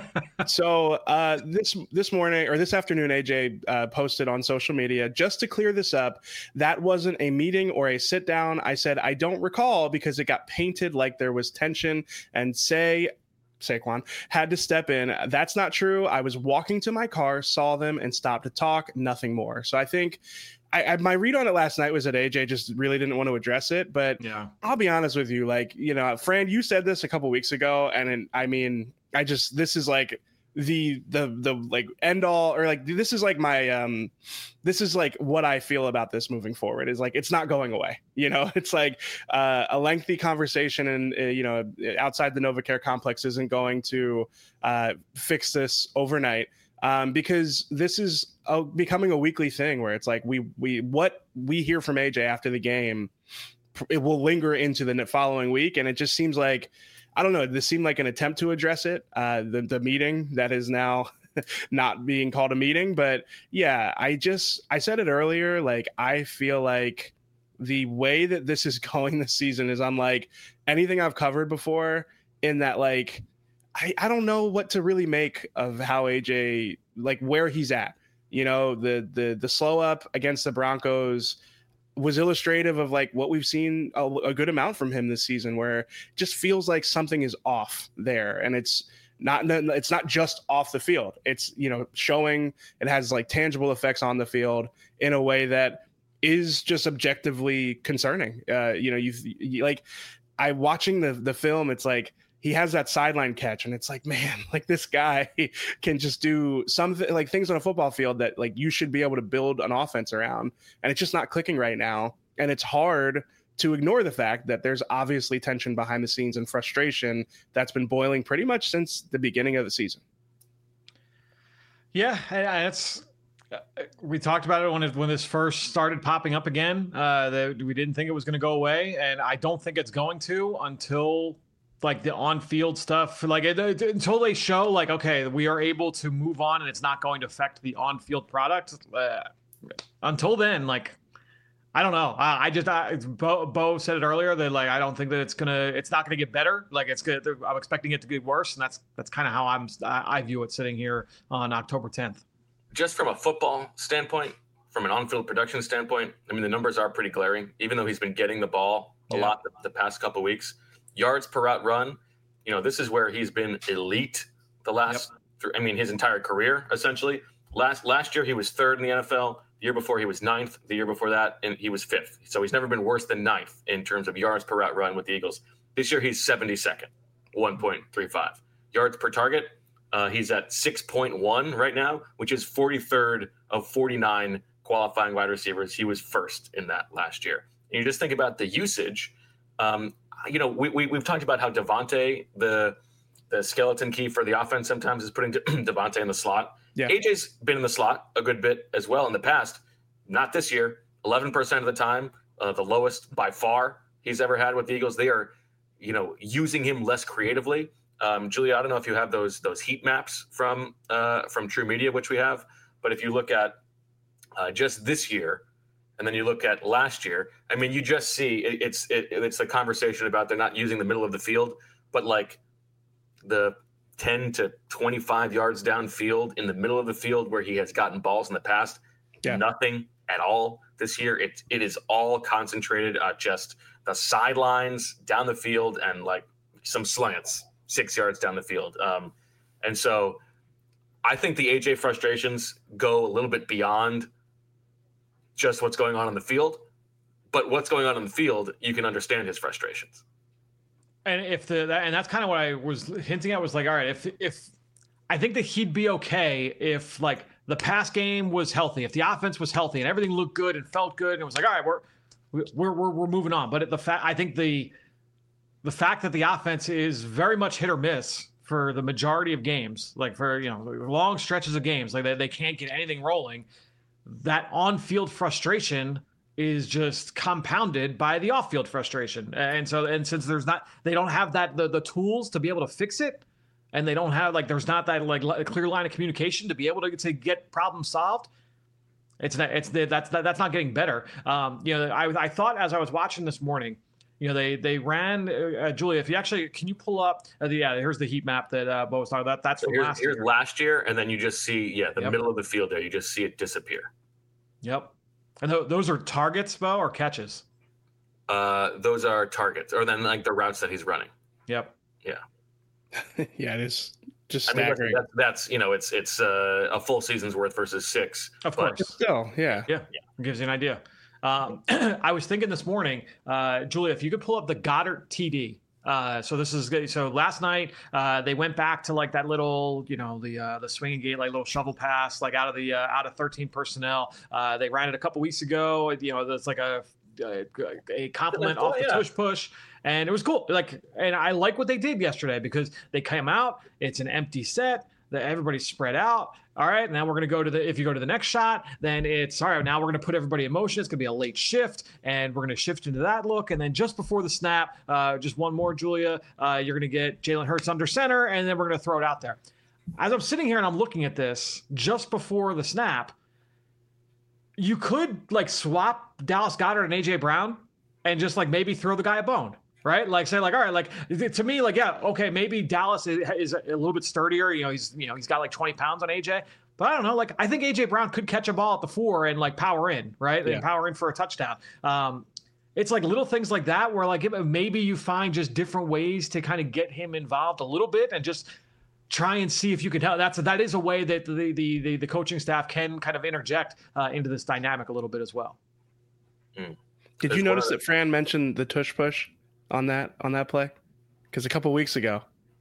so uh, this this morning or this afternoon, A J uh, posted on social media, just to clear this up, that wasn't a meeting or a sit down. I said, I don't recall because it got painted like there was tension and say Saquon had to step in. That's not true. I was walking to my car, saw them and stopped to talk, nothing more. So I think I, I, my read on it last night was that A J just really didn't want to address it. But yeah, I'll be honest with you. Like, you know, Fran, you said this a couple weeks ago. And it, I mean, I just, this is like the, the, the like end all, or like, this is like my, um, this is like what I feel about this moving forward is like, it's not going away. You know, it's like uh, a lengthy conversation and, uh, you know, outside the NovaCare complex isn't going to uh, fix this overnight. Um, because this is a, becoming a weekly thing where it's like we we what we hear from A J after the game, it will linger into the following week, and it just seems like I don't know. This seemed like an attempt to address it. Uh, the the meeting that is now not being called a meeting, but yeah, I just I said it earlier. Like I feel like the way that this is going this season is unlike anything I've covered before. In that like. I, I don't know what to really make of how A J, like where he's at. You know, the the the slow up against the Broncos was illustrative of like what we've seen a, a good amount from him this season, where it just feels like something is off there, and it's not it's not just off the field. It's, you know, showing it has like tangible effects on the field in a way that is just objectively concerning. Uh, you know, you've you, like I watching the the film, it's like. He has that sideline catch and it's like, man, like this guy can just do something like things on a football field that like you should be able to build an offense around. And it's just not clicking right now. And it's hard to ignore the fact that there's obviously tension behind the scenes and frustration that's been boiling pretty much since the beginning of the season. Yeah, it's we talked about it when it, when this first started popping up again, uh, that we didn't think it was going to go away. And I don't think it's going to until like the on-field stuff, like it, it, until they show like, okay, we are able to move on and it's not going to affect the on-field product. Uh, until then, like, I don't know. I, I just, I, Bo, Bo said it earlier that like, I don't think that it's going to, it's not going to get better. Like it's good. I'm expecting it to get worse. And that's, that's kind of how I'm, I, I view it sitting here on October tenth. Just from a football standpoint, from an on-field production standpoint, I mean, the numbers are pretty glaring, even though he's been getting the ball a yeah. lot the, the past couple of weeks. Yards per route run, you know, this is where he's been elite the last, yep. I mean, his entire career, essentially. Last last year, he was third in the N F L. The year before, he was ninth. The year before that, and he was fifth. So he's never been worse than ninth in terms of yards per route run with the Eagles. This year, he's seventy-second, one point three five. Yards per target, uh, he's at six point one right now, which is forty-third of forty-nine qualifying wide receivers. He was first in that last year. And you just think about the usage. Um, You know, we, we, we've talked about how Devontae, the the skeleton key for the offense sometimes is putting Devontae in the slot. Yeah. A J's been in the slot a good bit as well in the past. Not this year. eleven percent of the time, uh, the lowest by far he's ever had with the Eagles. They are, you know, using him less creatively. Um, Julia, I don't know if you have those those heat maps from uh, from True Media, which we have. But if you look at uh, just this year, and then you look at last year, I mean, you just see it, it's it, it's a conversation about they're not using the middle of the field, but like the ten to twenty-five yards downfield in the middle of the field where he has gotten balls in the past, yeah. nothing at all this year. It, it is all concentrated at just the sidelines down the field and like some slants six yards down the field. Um, and so I think the A J frustrations go a little bit beyond just what's going on in the field, but what's going on in the field, you can understand his frustrations. And if the, that, and that's kind of what I was hinting at was like, all right, if, if I think that he'd be okay if like the pass game was healthy, if the offense was healthy and everything looked good and felt good. And it was like, all right, we're, we're, we're, we're moving on. But the fact, I think the, the fact that the offense is very much hit or miss for the majority of games, like for, you know, long stretches of games, like they, they can't get anything rolling. That on-field frustration is just compounded by the off-field frustration. And so, and since there's not, they don't have that, the, the tools to be able to fix it. And they don't have like, there's not that like a clear line of communication to be able to, to get problems solved. It's not, it's that's, that's not getting better. Um, you know, I, I thought as I was watching this morning, you know, they they ran uh, Julia. If you actually can you pull up? Uh, the, yeah, here's the heat map that uh, Bo was talking about. That's so from here's, last here's year. last year, and then you just see yeah the Yep. middle of the field there. You just see it disappear. Yep. And th- those are targets, Bo, or catches? Uh, those are targets, or then like the routes that he's running. Yep. Yeah. Yeah, it is just I mean, that's, staggering. that's, that's you know, it's it's uh, a full season's worth versus six. Of but- course. Still, yeah. Yeah. Yeah. It gives you an idea. Um, I was thinking this morning, uh, Julia, if you could pull up the Goddard T D. Uh, so this is good. So last night uh, they went back to like that little, you know, the uh, the swinging gate, like little shovel pass, like out of the uh, out of thirteen personnel. Uh, they ran it a couple weeks ago. You know, that's like a a, a compliment Oh, off the yeah. tush push, and it was cool. Like, and I like what they did yesterday because they came out. It's an empty set. That everybody's spread out. All right, now we're going to go to the, if you go to the next shot, then it's, all right, now we're going to put everybody in motion. It's going to be a late shift, and we're going to shift into that look. And then just before the snap, uh, just one more, Julia, uh, you're going to get Jalen Hurts under center, and then we're going to throw it out there. As I'm sitting here and I'm looking at this just before the snap, you could like swap Dallas Goedert and A J Brown and just like maybe throw the guy a bone. Right? Like say like, all right, like to me, like, yeah, okay, maybe Dallas is, is a little bit sturdier. You know, he's, you know, he's got like twenty pounds on A J, but I don't know. Like, I think A J Brown could catch a ball at the four and like power in, right? Yeah. And power in for a touchdown. Um, it's like little things like that where like maybe you find just different ways to kind of get him involved a little bit and just try and see if you can help. That's that is a way that the the the, the coaching staff can kind of interject uh, into this dynamic a little bit as well. Did There's you notice one of that Fran mentioned the tush push on that on that play? Because a couple weeks ago,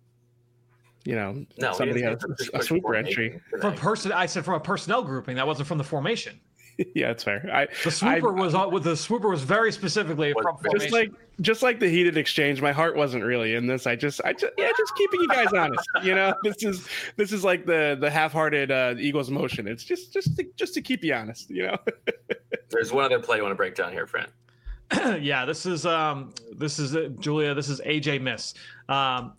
you know, No, somebody he had didn't say a, a push sweeper formation entry. From today. person, I said from a personnel grouping. That wasn't from the formation. Yeah, that's fair. I The swooper I- was all with the swooper was very specifically Was- from just formation. just like just like the heated exchange, my heart wasn't really in this. I just I just yeah, just keeping you guys honest. You know, this is this is like the the half-hearted uh, Eagles motion. It's just just to, just to keep you honest. You know. There's one other play you want to break down here, Fran. yeah, this is um this is uh, Julia. This is A J miss. Um,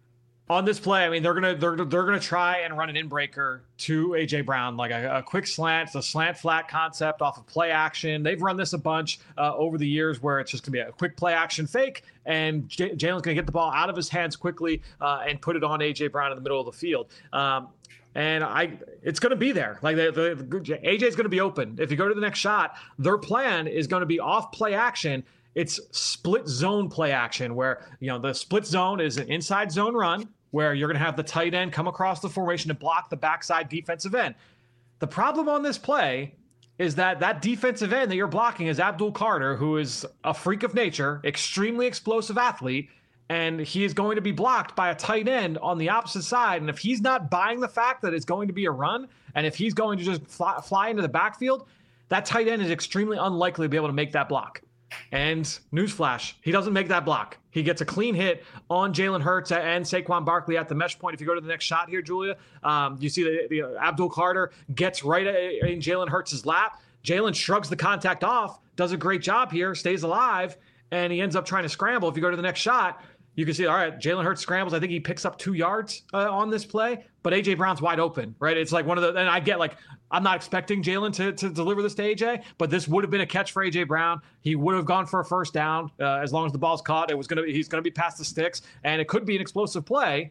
on this play, I mean they're gonna they're they're gonna try and run an in-breaker to A J Brown, like a, a quick slant. It's a slant flat concept off of play action. They've run this a bunch uh, over the years, where it's just gonna be a quick play action fake, and J- Jalen's gonna get the ball out of his hands quickly uh, and put it on A J Brown in the middle of the field. Um, And I, it's going to be there. Like the, the, the A J is going to be open. If you go to the next shot, their plan is going to be off play action. It's split zone play action, where you know the split zone is an inside zone run, where you're going to have the tight end come across the formation to block the backside defensive end. The problem on this play is that that defensive end that you're blocking is Abdul Carter, who is a freak of nature, extremely explosive athlete. And he is going to be blocked by a tight end on the opposite side. And if he's not buying the fact that it's going to be a run, and if he's going to just fly, fly into the backfield, that tight end is extremely unlikely to be able to make that block. And newsflash, he doesn't make that block. He gets a clean hit on Jalen Hurts and Saquon Barkley at the mesh point. If you go to the next shot here, Julia, um, you see the, the uh, Abdul Carter gets right in Jalen Hurts' lap. Jalen shrugs the contact off, does a great job here, stays alive, and he ends up trying to scramble. If you go to the next shot, you can see, all right, Jalen Hurts scrambles. I think he picks up two yards uh, on this play, but A J Brown's wide open, right? It's like one of the, and I get like, I'm not expecting Jalen to, to deliver this to A J, but this would have been a catch for A J Brown. He would have gone for a first down uh, as long as the ball's caught. It was going to, he's going to be past the sticks, and it could be an explosive play.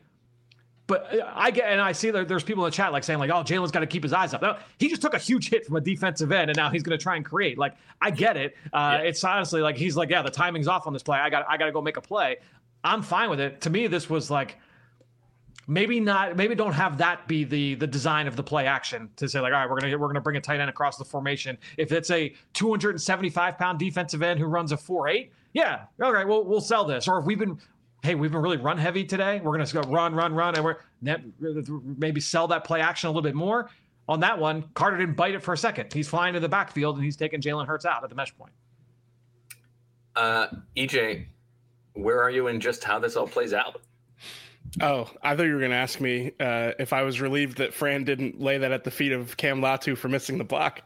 But I get, and I see that there's people in the chat like saying like, oh, Jalen's got to keep his eyes up. No, he just took a huge hit from a defensive end, and now he's going to try and create. Like, I get it. Uh, Yeah. It's honestly like he's like, yeah, the timing's off on this play. I got, I got to go make a play. I'm fine with it. To me, this was like maybe not. Maybe don't have that be the the design of the play action to say like, all right, we're gonna we're gonna bring a tight end across the formation. If it's a two hundred seventy-five pound defensive end who runs a four eight, yeah, all right, we'll we'll sell this. Or if we've been, hey, we've been really run heavy today, we're gonna go run, run, run, and we're maybe sell that play action a little bit more. On that one, Carter didn't bite it for a second. He's flying to the backfield and he's taking Jalen Hurts out at the mesh point. Uh, E J, where are you in just how this all plays out? Oh, I thought you were going to ask me uh, if I was relieved that Fran didn't lay that at the feet of Cam Latu for missing the block.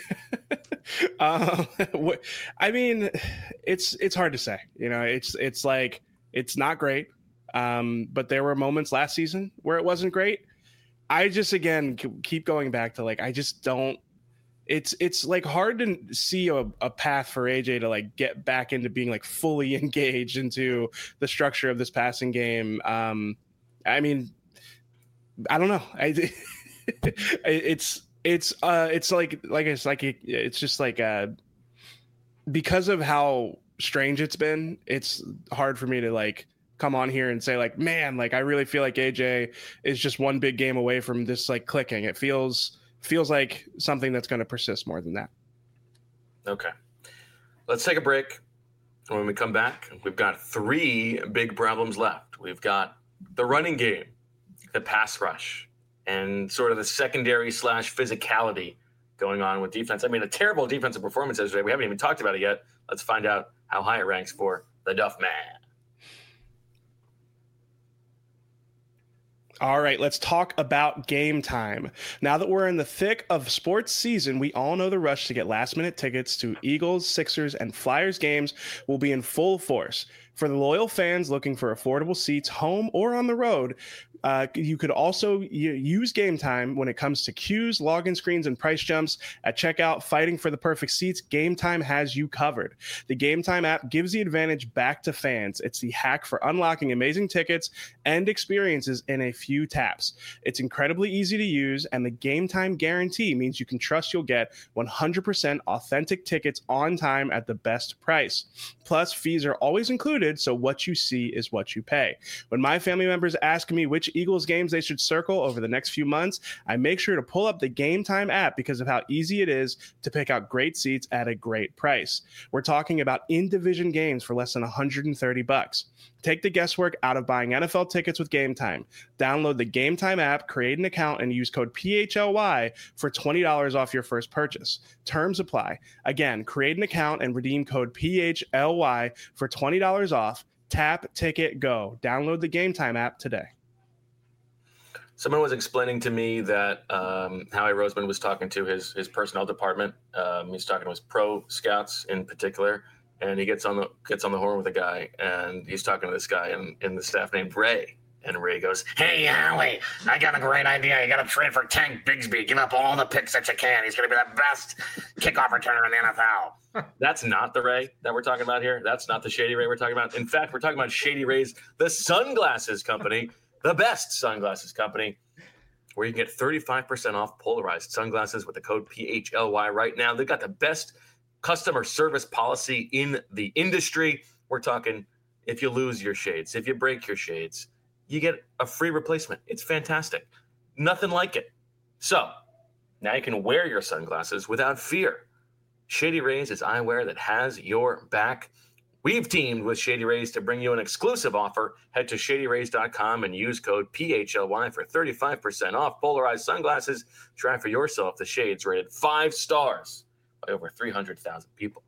uh, what- I mean, it's it's hard to say. You know, it's it's like it's not great. Um, but there were moments last season where it wasn't great. I just again keep going back to like I just don't. it's it's like hard to see a, a path for A J to like get back into being like fully engaged into the structure of this passing game. Um, I mean, I don't know. I, it's it's uh it's like like it's like it's just like uh because of how strange it's been. It's hard for me to like come on here and say like, man, like I really feel like A J is just one big game away from this like clicking. It feels feels like something that's going to persist more than that. Okay, let's take a break. When we come back, we've got three big problems left. We've got the running game, the pass rush, and sort of the secondary slash physicality going on with defense. I mean, a terrible defensive performance yesterday. We haven't even talked about it yet. Let's find out how high it ranks for the Duff Man. All right, let's talk about Game Time. Now that we're in the thick of sports season, we all know the rush to get last-minute tickets to Eagles, Sixers, and Flyers games will be in full force. For the loyal fans looking for affordable seats home or on the road, uh, you could also use Game Time when it comes to queues, login screens, and price jumps. At checkout, fighting for the perfect seats, Game Time has you covered. The Game Time app gives the advantage back to fans. It's the hack for unlocking amazing tickets and experiences in a few taps. It's incredibly easy to use, and the Game Time guarantee means you can trust you'll get one hundred percent authentic tickets on time at the best price. Plus, fees are always included, so what you see is what you pay. When my family members ask me which Eagles games they should circle over the next few months, I make sure to pull up the Game Time app because of how easy it is to pick out great seats at a great price. We're talking about in-division games for less than one hundred thirty bucks. Take the guesswork out of buying N F L tickets with Game Time. Download the Game Time app, create an account, and use code P H L Y for twenty dollars off your first purchase. Terms apply. Again, create an account and redeem code P H L Y for twenty dollars off. Tap, ticket, go. Download the Game Time app today. Someone was explaining to me that um, Howie Roseman was talking to his his personnel department. Um, he's talking to his pro scouts in particular, and he gets on the gets on the horn with a guy, and he's talking to this guy in, in the staff named Ray. And Ray goes, "Hey, Howie, I got a great idea. You got to trade for Tank Bigsby. Give up all the picks that you can. He's going to be the best kickoff returner in the N F L." That's not the Ray that we're talking about here. That's not the Shady Ray we're talking about. In fact, we're talking about Shady Ray's, the sunglasses company, the best sunglasses company, where you can get thirty-five percent off polarized sunglasses with the code P H L Y right now. They've got the best customer service policy in the industry. We're talking if you lose your shades, if you break your shades, you get a free replacement. It's fantastic. Nothing like it. So now you can wear your sunglasses without fear. Shady Rays is eyewear that has your back. We've teamed with Shady Rays to bring you an exclusive offer. Head to shady rays dot com and use code P H L Y for thirty-five percent off polarized sunglasses. Try for yourself the shades rated five stars by over three hundred thousand people.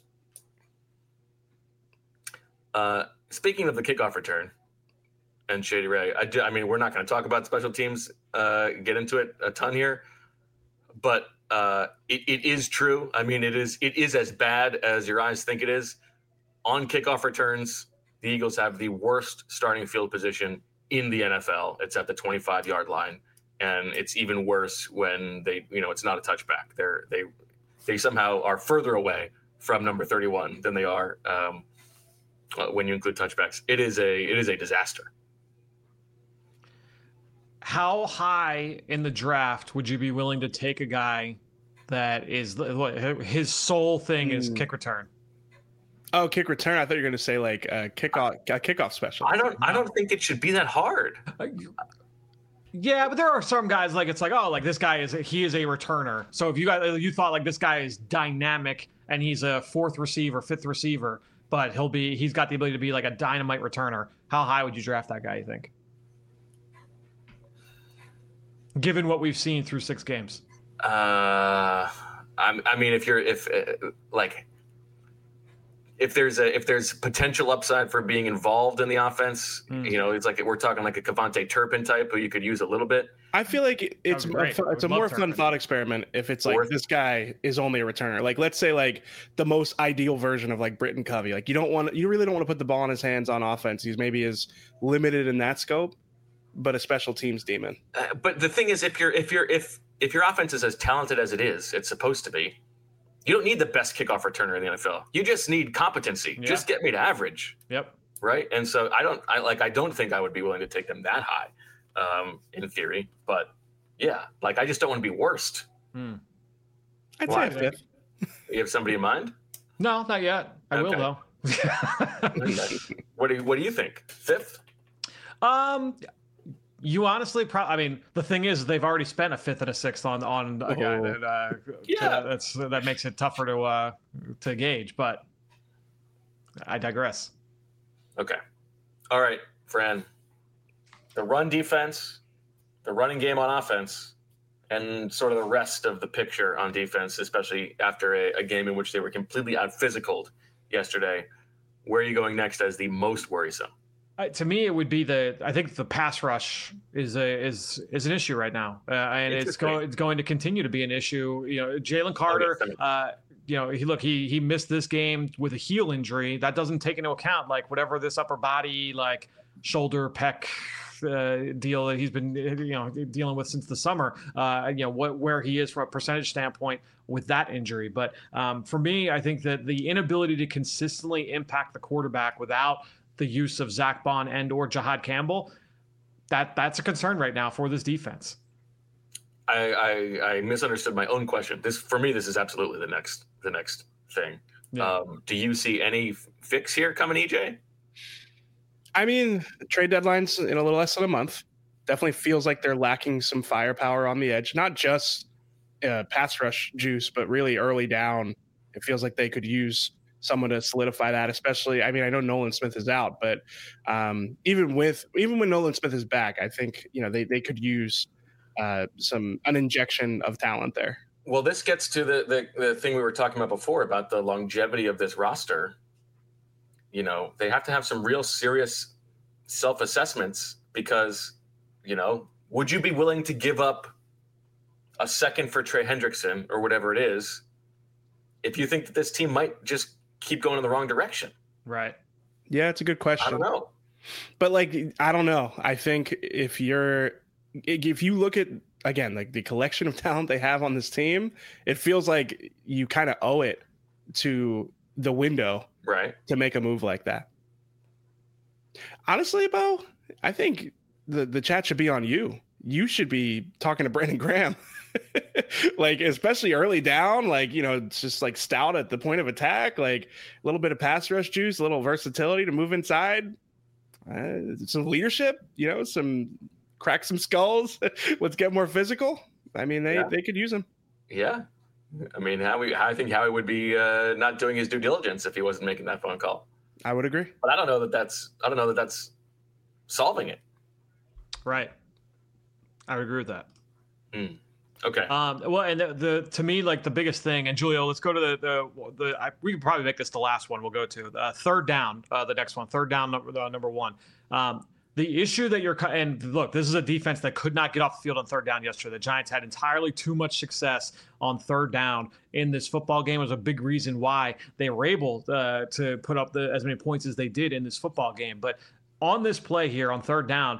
Uh, speaking of the kickoff return and Shady Ray, I, do, I mean, we're not going to talk about special teams, uh, get into it a ton here, but uh, it, it is true. I mean, it is it is as bad as your eyes think it is. On kickoff returns, the Eagles have the worst starting field position in the N F L. It's at the twenty-five-yard line, and it's even worse when they, you know, it's not a touchback. They're they they somehow are further away from number thirty-one than they are um, when you include touchbacks. It is a it is a disaster. How high in the draft would you be willing to take a guy that is his sole thing is kick return? Oh, kick return! I thought you were going to say like a kickoff, a kickoff special. I don't. I don't think it should be that hard. Yeah, but there are some guys like it's like oh, like this guy is he is a returner. So if you guys you thought like this guy is dynamic and he's a fourth receiver, fifth receiver, but he'll be he's got the ability to be like a dynamite returner. How high would you draft that guy? You think? Given what we've seen through six games. Uh, I, I mean, if you're if uh, like. If there's a if there's potential upside for being involved in the offense, mm. you know, it's like we're talking like a Kevontae Turpin type who you could use a little bit. I feel like it's a, it's a more fun thought experiment if it's like Worth this guy is only a returner. Like let's say like the most ideal version of like Britton Covey. Like you don't want you really don't want to put the ball in his hands on offense. He's maybe is limited in that scope, but a special teams demon. Uh, but the thing is, if you're if you're if if your offense is as talented as it is, it's supposed to be, you don't need the best kickoff returner in the N F L. You just need competency. Yeah. Just get me to average. Yep. Right. And so I don't I like I don't think I would be willing to take them that high, um, in theory. But yeah, like I just don't want to be worst. Hmm. I'd Why? say a fifth. You have somebody in mind? No, not yet. I will Okay. though. What do you, what do you think? Fifth? Um, you honestly, pro- I mean, the thing is, they've already spent a fifth and a sixth on on a guy Oh. that uh, Yeah. to- that's that makes it tougher to uh to gauge. But I digress. Okay. All right, Fran. The run defense, the running game on offense, and sort of the rest of the picture on defense, especially after a, a game in which they were completely out physicaled yesterday. Where are you going next as the most worrisome? Uh, to me, it would be the. I think the pass rush is a is is an issue right now, uh, and it's Interesting. going it's going to continue to be an issue. You know, Jalen Carter. Okay. Uh, you know, he look he he missed this game with a heel injury. That doesn't take into account like whatever this upper body like shoulder pec uh, deal that he's been you know dealing with since the summer. Uh, you know what where he is from a percentage standpoint with that injury. But um, for me, I think that the inability to consistently impact the quarterback without the use of Zach Bond and or Jahad Campbell, that that's a concern right now for this defense. I, I I misunderstood my own question. This for me, this is absolutely the next the next thing. Yeah. Um, do you see any f- fix here coming, E J? I mean, trade deadline's in a little less than a month. Definitely feels like they're lacking some firepower on the edge, not just uh, pass rush juice, but really early down. It feels like they could use someone to solidify that, especially, I mean, I know Nolan Smith is out, but um, even with, even when Nolan Smith is back, I think, you know, they, they could use uh, some, an injection of talent there. Well, this gets to the, the the thing we were talking about before about the longevity of this roster. You know, they have to have some real serious self-assessments because, you know, would you be willing to give up a second for Trey Hendrickson or whatever it is if you think that this team might just keep going in the wrong direction? Right. Yeah, it's a good question. I don't know. But like, I don't know. I think if you're, if you look at, again, like the collection of talent they have on this team, it feels like you kind of owe it to the window Right. to make a move like that. Honestly, Bo, I think the, the chat should be on you. You should be talking to Brandon Graham. Like, especially early down, like, you know, it's just like stout at the point of attack, like a little bit of pass rush juice, a little versatility to move inside, uh, some leadership, you know, some crack some skulls. Let's get more physical. I mean, they, Yeah. they could use him. Yeah. I mean, Howie, I think Howie would be uh, not doing his due diligence if he wasn't making that phone call. I would agree. But I don't know that that's I don't know that that's solving it. Right. I would agree with that. Okay. Um, well, and the, the to me, like the biggest thing, and Julio, let's go to the the, the I, we can probably make this the last one we'll go to. Uh, third down, uh, the next one, third down, number, uh, number one. Um, the issue that you're, and look, this is a defense that could not get off the field on third down yesterday. The Giants had entirely too much success on third down in this football game. It was a big reason why they were able uh, to put up the, as many points as they did in this football game. But on this play here on third down,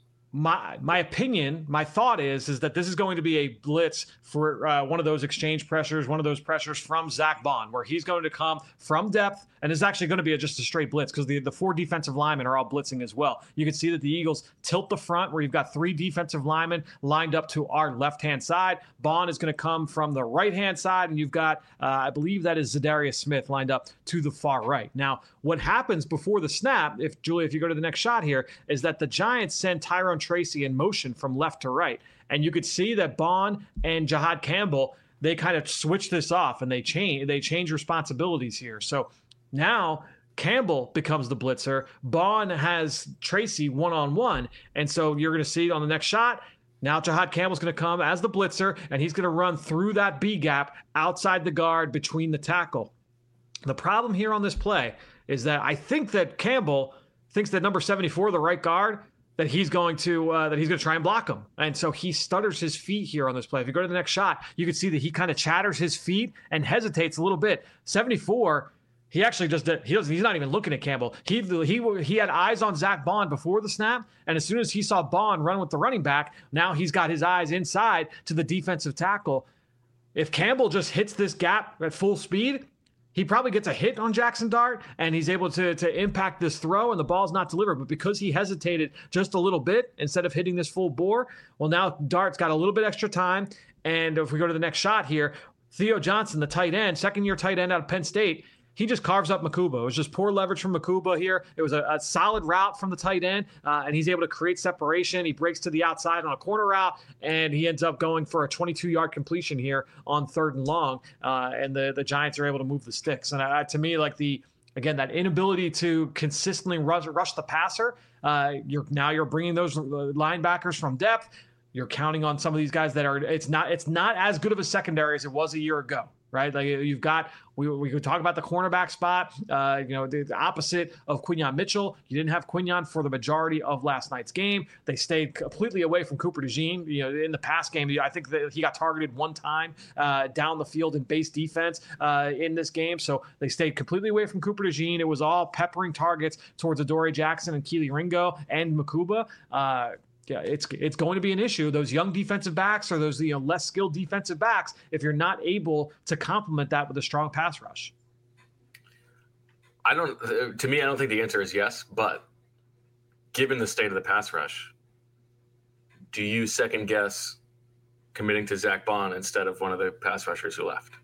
My my opinion, my thought is, is that this is going to be a blitz for uh, one of those exchange pressures, one of those pressures from Zach Bond, where he's going to come from depth, and it's actually going to be a, just a straight blitz because the, the four defensive linemen are all blitzing as well. You can see that the Eagles tilt the front where you've got three defensive linemen lined up to our left-hand side. Bond is going to come from the right-hand side, and you've got, uh, I believe that is Zadarius Smith lined up to the far right. Now, what happens before the snap, if Julia, if you go to the next shot here, is that the Giants send Tyrone Tracy in motion from left to right. And you could see that Bond and Jahad Campbell, they kind of switch this off and they change they change responsibilities here. So now Campbell becomes the blitzer. Bond has Tracy one-on-one. And so you're going to see on the next shot, now Jahad Campbell's going to come as the blitzer, and he's going to run through that B gap outside the guard between the tackle. The problem here on this play is that I think that Campbell thinks that number seventy-four, the right guard, that he's going to uh, that he's going to try and block him. And so he stutters his feet here on this play. If you go to the next shot, you can see that he kind of chatters his feet and hesitates a little bit. seventy-four, He actually just did. He doesn't. He's not even looking at Campbell. He he he had eyes on Zach Bond before the snap, and as soon as he saw Bond run with the running back, now he's got his eyes inside to the defensive tackle. If Campbell just hits this gap at full speed, he probably gets a hit on Jackson Dart, and he's able to to impact this throw, and the ball's not delivered. But because he hesitated just a little bit instead of hitting this full bore, well, now Dart's got a little bit extra time. And if we go to the next shot here, Theo Johnson, the tight end, second-year tight end out of Penn State. He just carves up Makuba. It was just poor leverage from Makuba here. It was a, a solid route from the tight end, uh, and he's able to create separation. He breaks to the outside on a corner route, and he ends up going for a twenty-two-yard completion here on third and long, uh, and the, the Giants are able to move the sticks. And uh, to me, like the again, that inability to consistently rush, rush the passer, uh, you're now you're bringing those linebackers from depth. You're counting on some of these guys that are. It's not. It's not as good of a secondary as it was a year ago. Right, like you've got, we we could talk about the cornerback spot. Uh, you know, the, the opposite of Quinyon Mitchell. You didn't have Quinyon for the majority of last night's game. They stayed completely away from Cooper DeJean. You know, in the pass game, I think that he got targeted one time uh, down the field in base defense uh, in this game. So they stayed completely away from Cooper DeJean. It was all peppering targets towards Adoree Jackson and Keely Ringo and Makuba. Uh, Yeah, it's it's going to be an issue. Those young defensive backs or those you know less skilled defensive backs, if you're not able to complement that with a strong pass rush. I don't. To me, I don't think the answer is yes. But given the state of the pass rush, do you second guess committing to Zach Bond instead of one of the pass rushers who left?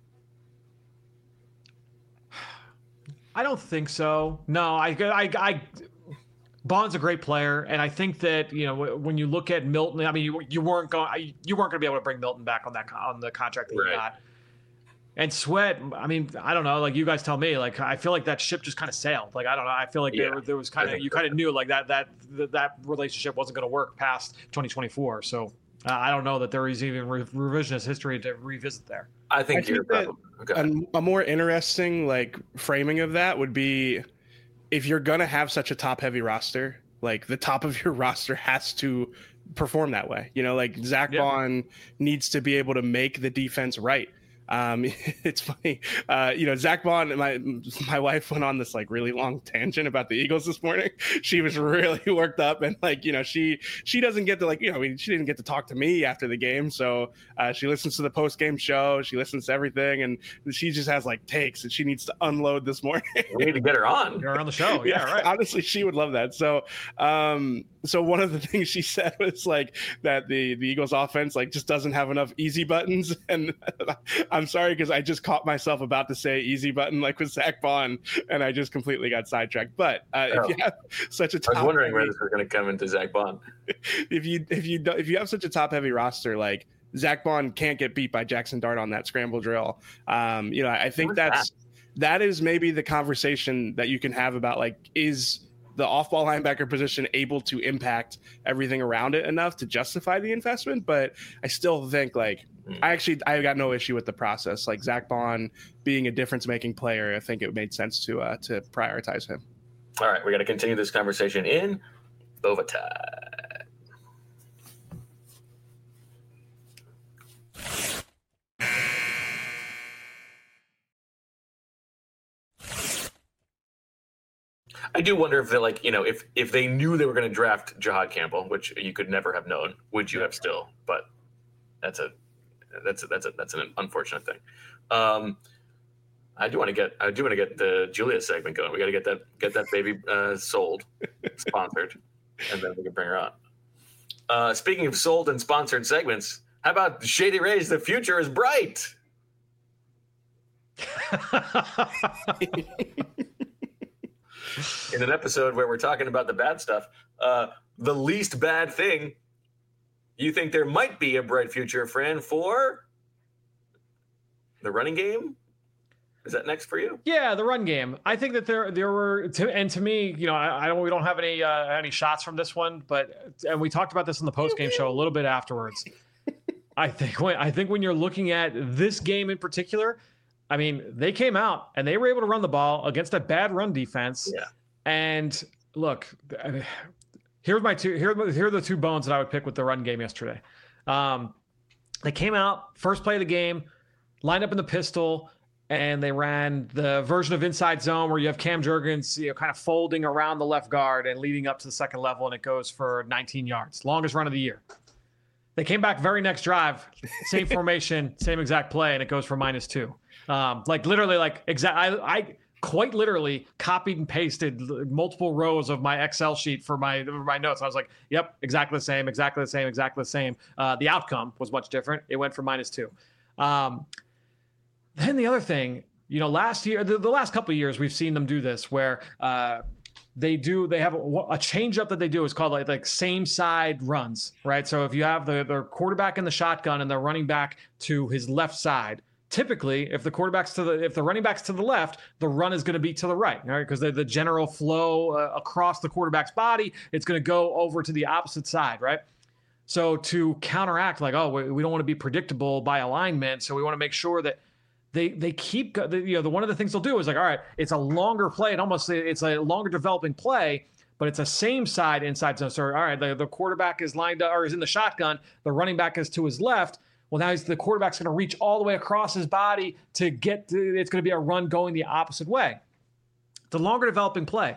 I don't think so. No, I I. I Bond's a great player, and I think that you know when you look at Milton, I mean, you, you weren't going, you weren't going to be able to bring Milton back on that on the contract that right. you got. And Sweat, I mean, I don't know, like you guys tell me, like I feel like that ship just kind of sailed. Like I don't know, I feel like yeah, there, there was kind of you kind of knew like that that that relationship wasn't going to work past twenty twenty-four. So uh, I don't know that there is even re- revisionist history to revisit there. I think, I think that okay. a, a more interesting like framing of that would be. If you're going to have such a top heavy roster, like the top of your roster has to perform that way. You know, like Zach yeah. Bond needs to be able to make the defense right. Um, it's funny, uh, you know, Zach Bond, my, my wife went on this like really long tangent about the Eagles this morning. She was really worked up and like, you know, she, she doesn't get to like, you know, I mean, she didn't get to talk to me after the game. So uh, she listens to the post game show. She listens to everything and she just has like takes and she needs to unload this morning. We need to get her on. Get her on the show. Yeah, yeah, right. Honestly, she would love that. So, um, so one of the things she said was like that the, the Eagles offense like just doesn't have enough easy buttons. And I'm sorry, because I just caught myself about to say easy button like with Zach Bond, and I just completely got sidetracked. But uh, oh. if you have such a top I was wondering heavy, where this was going to come into Zach Bond. If you if you if you have such a top heavy roster, like Zach Bond can't get beat by Jackson Dart on that scramble drill. Um, you know, I think that's that? that is maybe the conversation that you can have about like is the off-ball linebacker position able to impact everything around it enough to justify the investment. But I still think like mm. I actually I got no issue with the process. Like Zach Bond being a difference-making player, I think it made sense to uh, to prioritize him. All right, we got to continue this conversation in overtime. I do wonder if they like, you know, if if they knew they were going to draft Jihad Campbell, which you could never have known, would you have still? But that's a that's a, that's a, that's an unfortunate thing. Um, I do want to get I do want to get the Julia segment going. We got to get that get that baby uh, sold, sponsored, and then we can bring her on. Uh, speaking of sold and sponsored segments, how about Shady Rays? The future is bright. In an episode where we're talking about the bad stuff, uh, the least bad thing, you think there might be a bright future, Fran, for the running game? Is that next for you? Yeah, the run game. I think that there there were, to, and to me, you know, I, I don't we don't have any uh, any shots from this one, but and we talked about this in the post game show a little bit afterwards. I think when I think when you're looking at this game in particular. I mean, they came out and they were able to run the ball against a bad run defense. Yeah. And look, here's my two. Here, here are the two bones that I would pick with the run game yesterday. Um, they came out first play of the game, lined up in the pistol, and they ran the version of inside zone where you have Cam Jurgens, you know, kind of folding around the left guard and leading up to the second level, and it goes for nineteen yards, longest run of the year. They came back very next drive, same formation, same exact play, and it goes for minus two. Um, like literally, like exact. I, I quite literally copied and pasted multiple rows of my Excel sheet for my for my notes. I was like, "Yep, exactly the same, exactly the same, exactly the same." Uh, the outcome was much different. It went for minus two. Um, then the other thing, you know, last year, the, the last couple of years, we've seen them do this where uh, they do they have a, a change up that they do is called like like same side runs, right? So if you have the the quarterback in the shotgun and they're running back to his left side. Typically, if the quarterback's to the if the running back's to the left, the run is going to be to the right, right? Because the, the general flow uh, across the quarterback's body, it's going to go over to the opposite side, right? So to counteract, like, oh, we, we don't want to be predictable by alignment, so we want to make sure that they they keep, you know, the one of the things they'll do is like, all right, it's a longer play, and almost it's a longer developing play, but it's a same side inside zone. So all right, the, the quarterback is lined up or is in the shotgun, the running back is to his left. Well, now he's, the quarterback's going to reach all the way across his body to get to, it's going to be a run going the opposite way. The longer developing play.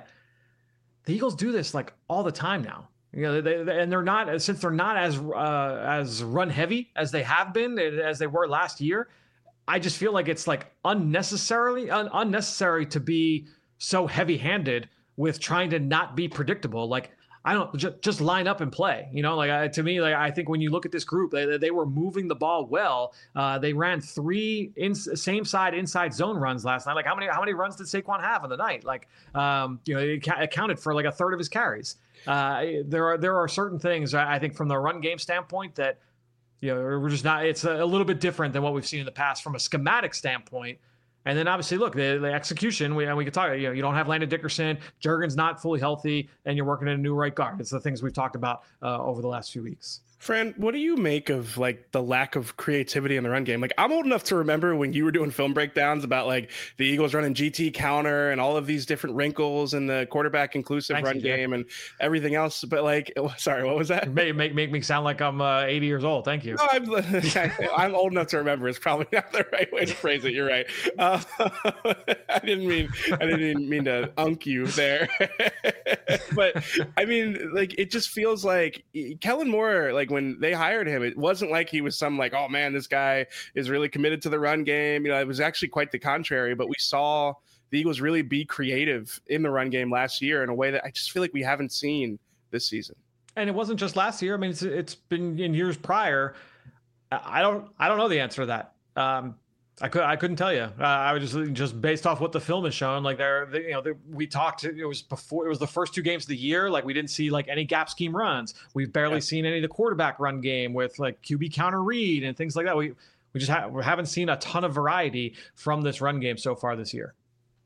The Eagles do this like all the time now. You know, they, they, and they're not, since they're not as uh, as run heavy as they have been, as they were last year. I just feel like it's like unnecessarily un, unnecessary to be so heavy handed with trying to not be predictable. Like, I don't just, just line up and play, you know, like I, to me, like I think when you look at this group, they, they were moving the ball well. Uh, they ran three in, same side inside zone runs last night. Like how many, how many runs did Saquon have in the night? Like, um, you know, it accounted for like a third of his carries. Uh, there are, there are certain things I think from the run game standpoint that, you know, we're just not, it's a, a little bit different than what we've seen in the past from a schematic standpoint. And then obviously, look, the, the execution, we, and we could talk, you know, you don't have Landon Dickerson, Jurgens not fully healthy, and you're working in a new right guard. It's the things we've talked about uh, over the last few weeks. Fran, what do you make of like the lack of creativity in the run game? Like I'm old enough to remember when you were doing film breakdowns about like the Eagles running G T counter and all of these different wrinkles in the quarterback inclusive Thanks, run game and everything else. But like, sorry, what was that? Make make, make me sound like I'm uh, eighty years old. Thank you. No, I'm, I'm old enough to remember. It's probably not the right way to phrase it. You're right. Uh, I didn't mean I didn't mean to unk you there. But I mean, like it just feels like Kellen Moore, like when they hired him, it wasn't like he was some like, oh man, this guy is really committed to the run game. You know, it was actually quite the contrary. But we saw the Eagles really be creative in the run game last year in a way that I just feel like we haven't seen this season. And it wasn't just last year. I mean, it's it's been in years prior. I don't I don't know the answer to that. Um, I could I couldn't tell you. Uh, I was just just based off what the film has shown. Like they're they, you know they, we talked. It was before it was the first two games of the year. Like we didn't see like any gap scheme runs. We've barely yeah. seen any of the quarterback run game with like Q B counter read and things like that. We we just ha- we haven't seen a ton of variety from this run game so far this year.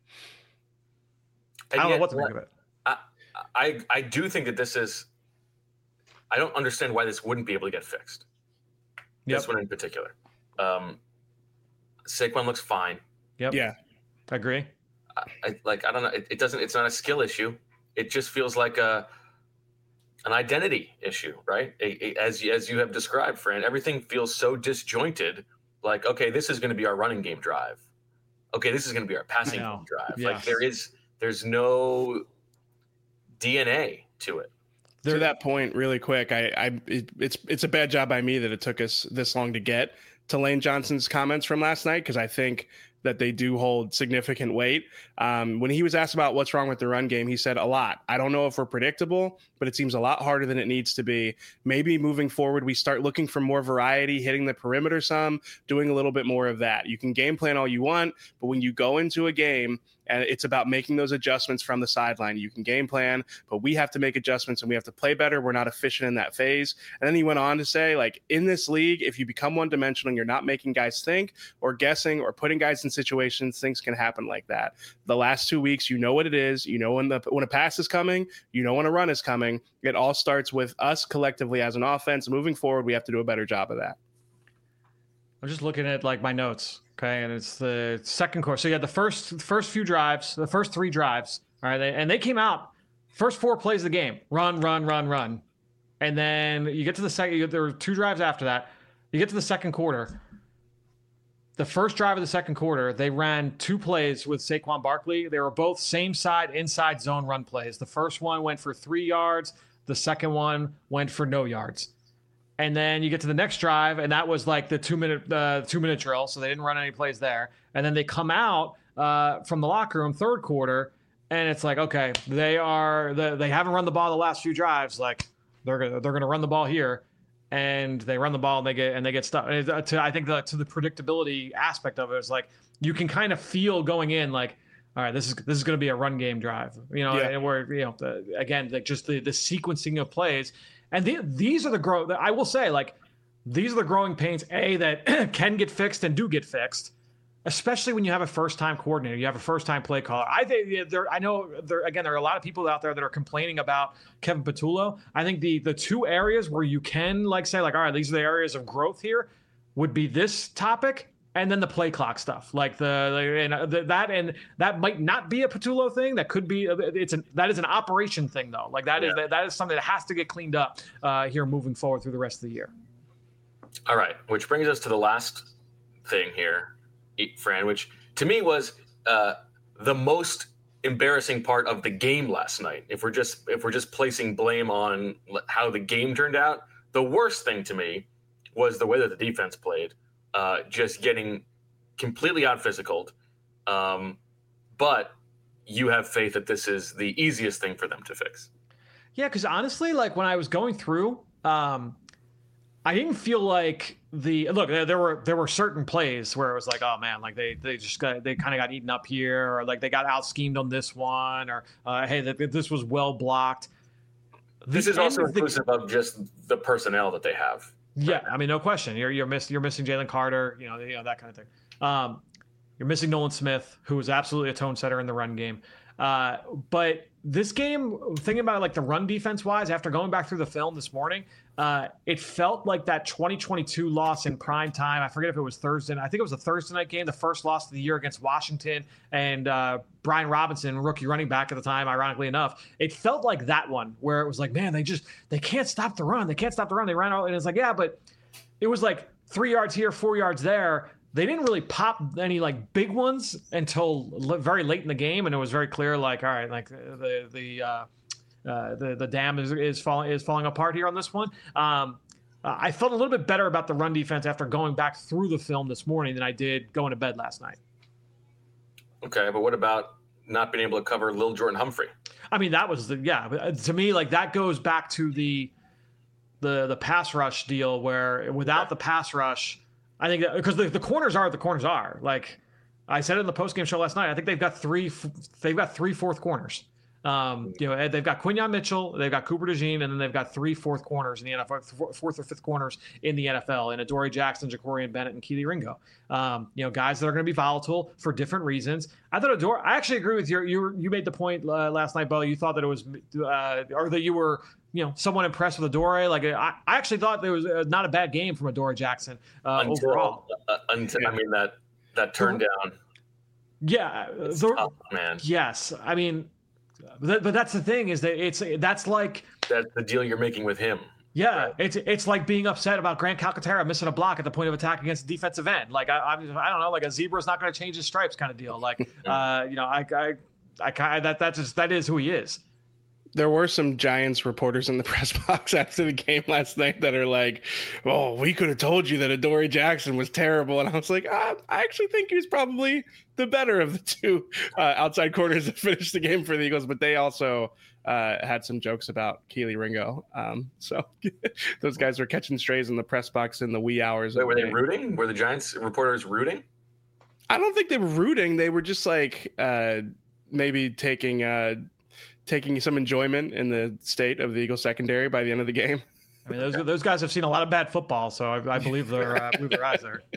And I don't yet, know what to make of it. I, I I do think that this is. I don't understand why this wouldn't be able to get fixed. Yep. This one in particular. Um, Saquon looks fine. Yep. Yeah. I agree. I, I like I don't know. It, it doesn't it's not a skill issue. It just feels like a an identity issue, right? A, a, as as you have described, Fran, everything feels so disjointed. Like, okay, this is going to be our running game drive. Okay, this is going to be our passing game drive. Yes. Like there is there's no D N A to it. To that point, really quick, I, I it, it's it's a bad job by me that it took us this long to get to Lane Johnson's comments from last night, because I think that they do hold significant weight. Um, when he was asked about what's wrong with the run game, he said a lot. I don't know if we're predictable, but it seems a lot harder than it needs to be. Maybe moving forward, we start looking for more variety, hitting the perimeter some, doing a little bit more of that. You can game plan all you want, but when you go into a game, and it's about making those adjustments from the sideline. You can game plan, but we have to make adjustments and we have to play better. We're not efficient in that phase. And then he went on to say, like, in this league, if you become one-dimensional and you're not making guys think or guessing or putting guys in situations, things can happen like that. The last two weeks, you know what it is. You know when the when a pass is coming. You know when a run is coming. It all starts with us collectively as an offense. Moving forward, we have to do a better job of that. I'm just looking at, like, my notes. Okay, and it's the second quarter. So you had the first first few drives, the first three drives, all right, and they came out, first four plays of the game, run, run, run, run. And then you get to the second, there were two drives after that. You get to the second quarter. the first drive of the second quarter, they ran two plays with Saquon Barkley. They were both same side inside zone run plays. The first one went for three yards. The second one went for no yards. And then you get to the next drive, and that was like the two minute uh, two minute drill. So they didn't run any plays there. And then they come out uh, from the locker room third quarter, and it's like, okay, they are the, they haven't run the ball the last few drives. Like they're gonna they're gonna run the ball here. And they run the ball and they get and they get stuck. And to, I think the, to the predictability aspect of it is like you can kind of feel going in like, all right, this is this is going to be a run game drive, you know, yeah. and where you know the, again like just the the sequencing of plays, and the, these are the grow. I will say like these are the growing pains a that can get fixed and do get fixed. Especially when you have a first-time coordinator, you have a first-time play caller. I think there. I know there. Again, there are a lot of people out there that are complaining about Kevin Patullo. I think the the two areas where you can like say like, all right, these are the areas of growth here, would be this topic and then the play clock stuff. Like the, and the that and that might not be a Patullo thing. That could be. It's an that is an operation thing though. Like that yeah. is that, that is something that has to get cleaned up uh, here moving forward through the rest of the year. All right, which brings us to the last thing here. Fran, which to me was uh, the most embarrassing part of the game last night. If we're just if we're just placing blame on how the game turned out, the worst thing to me was the way that the defense played, uh, just getting completely out physicaled. Um, but you have faith that this is the easiest thing for them to fix. Yeah, because honestly, like when I was going through, um, I didn't feel like the look. There were there were certain plays where it was like, oh man, like they they just got they kind of got eaten up here, or like they got out schemed on this one, or uh, hey, that this was well blocked. This the is also inclusive the, of just the personnel that they have. Yeah, I mean, no question. You're you're missing you're missing Jalen Carter, you know, you know that kind of thing. Um, you're missing Nolan Smith, who was absolutely a tone setter in the run game. Uh, but this game, thinking about it, like the run defense wise, after going back through the film this morning, uh, it felt like that twenty twenty-two loss in prime time. I forget if it was Thursday. I think it was a Thursday night game, the first loss of the year against Washington, and uh, Brian Robinson, rookie running back at the time, ironically enough. It felt like that one where it was like, man, they just, they can't stop the run. They can't stop the run. They ran out. And it's like, yeah, but it was like three yards here, four yards there. They didn't really pop any like big ones until very late in the game, and it was very clear, like, all right, like the the uh, uh, the the dam is is falling is falling apart here on this one. Um, I felt a little bit better about the run defense after going back through the film this morning than I did going to bed last night. Okay, but what about not being able to cover Lil Jordan Humphrey? I mean, that was the yeah. To me, like that goes back to the the the pass rush deal where without okay. the pass rush. I think that because the, the corners are what the corners are. Like I said in the postgame show last night, I think they've got three. They've got three fourth corners. Um, you know, they've got Quinyon Mitchell, they've got Cooper DeJean, and then they've got three fourth corners in the N F L, fourth or fifth corners in the N F L, and Adoree Jackson, Jacorian Bennett, and Keely Ringo. Um, you know, guys that are going to be volatile for different reasons. I thought Adoree. I actually agree with you. You you made the point uh, last night, Bo. You thought that it was, uh, or that you were. You know, somewhat impressed with Adoree. Like I, I actually thought there was a, not a bad game from Adoree Jackson uh, until, overall. Uh, until I mean that that turned down. Yeah, it's the, tough, man. Yes, I mean, but, but that's the thing is that it's that's like that's the deal you're making with him. Yeah, right. it's it's like being upset about Grant Calcaterra missing a block at the point of attack against a defensive end. Like I I, I don't know, like a zebra's not going to change his stripes kind of deal. Like uh, you know, I I I, I that that's just that is who he is. There were some Giants reporters in the press box after the game last night that are like, "Oh, we could have told you that Adoree Jackson was terrible," and I was like, ah, "I actually think he was probably the better of the two uh, outside corners that finished the game for the Eagles." But they also uh, had some jokes about Keely Ringo, um, so those guys were catching strays in the press box in the wee hours. Wait, of were the they day. rooting? Were the Giants reporters rooting? I don't think they were rooting. They were just like uh, maybe taking. Uh, taking some enjoyment in the state of the Eagles secondary by the end of the game. I mean, those those guys have seen a lot of bad football, so I, I believe their uh, believe their eyes there.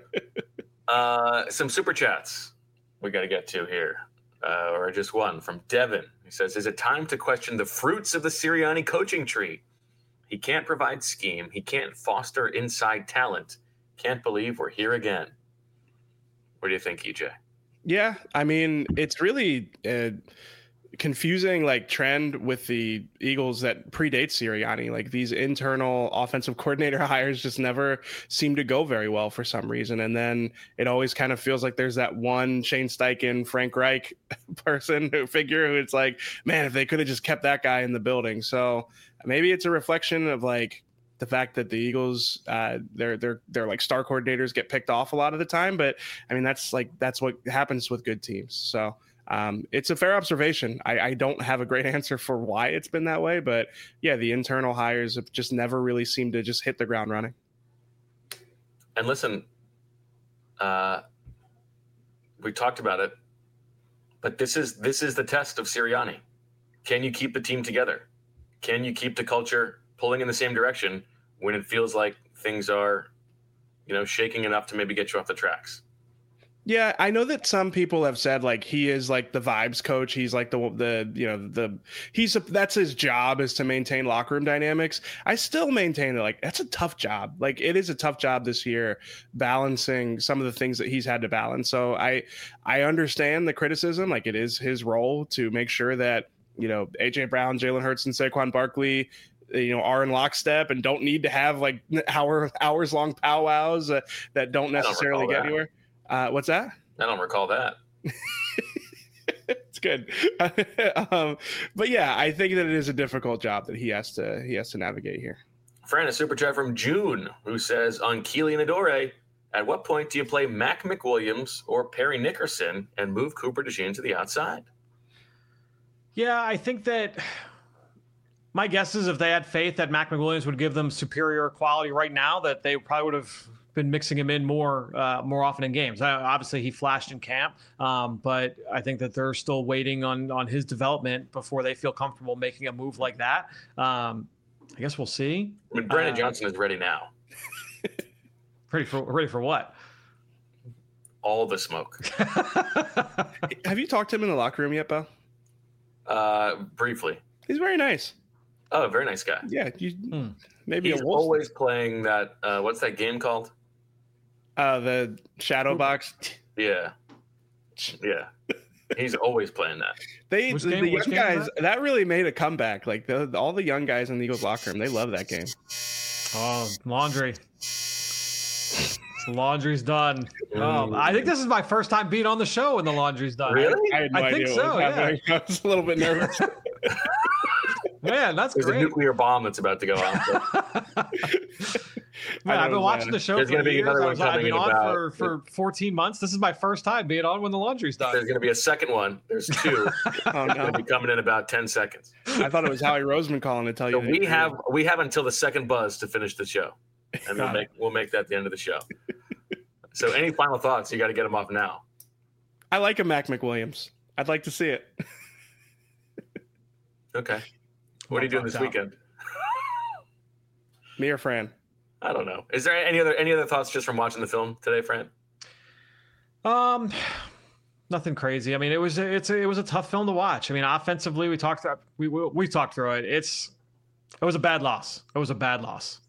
Uh, some super chats we got to get to here, uh, or just one from Devin. He says, "Is it time to question the fruits of the Sirianni coaching tree? He can't provide scheme. He can't foster inside talent. Can't believe we're here again." What do you think, E J? Yeah, I mean, it's really. Uh, confusing like trend with the Eagles that predates Sirianni. Like these internal offensive coordinator hires just never seem to go very well for some reason. And then it always kind of feels like there's that one Shane Steichen, Frank Reich person who figure who it's like, man, if they could have just kept that guy in the building. So maybe it's a reflection of like the fact that the Eagles, uh, their their their like star coordinators get picked off a lot of the time. But I mean, that's like that's what happens with good teams. So um, it's a fair observation. I, I don't have a great answer for why it's been that way, but yeah, the internal hires have just never really seemed to just hit the ground running. And listen, uh, we talked about it, but this is this is the test of Sirianni. Can you keep the team together? Can you keep the culture pulling in the same direction when it feels like things are, you know, shaking enough to maybe get you off the tracks? Yeah, I know that some people have said like he is like the vibes coach. He's like the the you know the he's a, that's his job is to maintain locker room dynamics. I still maintain that like that's a tough job. Like it is a tough job this year balancing some of the things that he's had to balance. So I I understand the criticism. Like it is his role to make sure that, you know, A J Brown, Jalen Hurts, and Saquon Barkley, you know, are in lockstep and don't need to have like hour hours long powwows uh, that don't necessarily don't get that. anywhere. Uh, what's that? I don't recall that. It's good. um, but yeah, I think that it is a difficult job that he has to he has to navigate here. Fran, a super chat from June, who says, on Keely and Adore, at what point do you play Mac McWilliams or Perry Nickerson and move Cooper DeJean to the outside? Yeah, I think that my guess is if they had faith that Mac McWilliams would give them superior quality right now, that they probably would have been mixing him in more uh, more often in games. Uh, obviously, he flashed in camp, um, but I think that they're still waiting on on his development before they feel comfortable making a move like that. Um, I guess we'll see. I mean, Brandon uh, Johnson is ready now. Ready for ready for what? All the smoke. Have you talked to him in the locker room yet, Bo? Uh, briefly. He's very nice. Oh, very nice guy. Yeah, you, Hmm. maybe He's a wolf. always playing that. Uh, what's that game called? Uh, the shadow box. Yeah, yeah. He's always playing that. They Which the, game- the which young game is guys that? really made a comeback. Like the, all the young guys in the Eagles locker room, they love that game. Oh, laundry. Laundry's done. Oh, I think this is my first time being on the show when the laundry's done. Really? I had no I idea think what so, was happening. I was a little bit nervous. Man, that's There's a great. nuclear bomb that's about to go off. Man, I I've been don't, watching uh, the show there's for gonna be years. another I one was, I've coming been in on about- for, for fourteen months. This is my first time being on when the laundry's done. There's going to be a second one. There's two. Oh Going no! to be coming in about ten seconds. I thought it was Howie Roseman calling to tell So you. that we you- have we have until the second buzz to finish the show, and we'll Got make we'll make that the end of the show. So any final thoughts? You got to get them off now. I like a Mac McWilliams. I'd like to see it. Okay. What are you doing this Out. weekend? Me or Fran? I don't know. Is there any other any other thoughts just from watching the film today, Fran? Um, nothing crazy. I mean, it was a, it's a, it was a tough film to watch. I mean, offensively, we talked through, we, we we talked through it. It's it was a bad loss. It was a bad loss.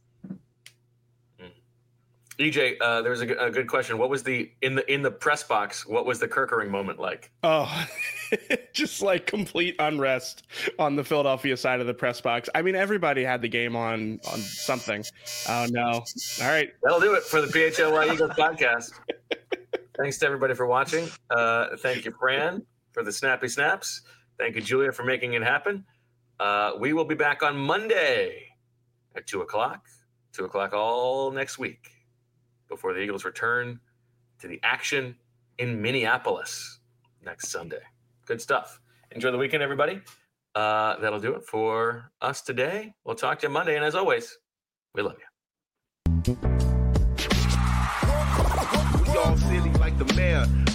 E J, uh, there was a, g- a good question. What was the in the in the press box? What was the Kirkering moment like? Oh, just like complete unrest on the Philadelphia side of the press box. I mean, everybody had the game on on something. Oh no! All right, That'll do it for the P H L Y Eagles podcast. Thanks to everybody for watching. Uh, thank you, Fran, for the snappy snaps. Thank you, Julia, for making it happen. Uh, we will be back on Monday at two o'clock. two o'clock all next week before the Eagles return to the action in Minneapolis next Sunday. Good stuff. Enjoy the weekend, everybody. Uh, that'll do it for us today. We'll talk to you Monday. And as always, we love you. We all silly like the mayor.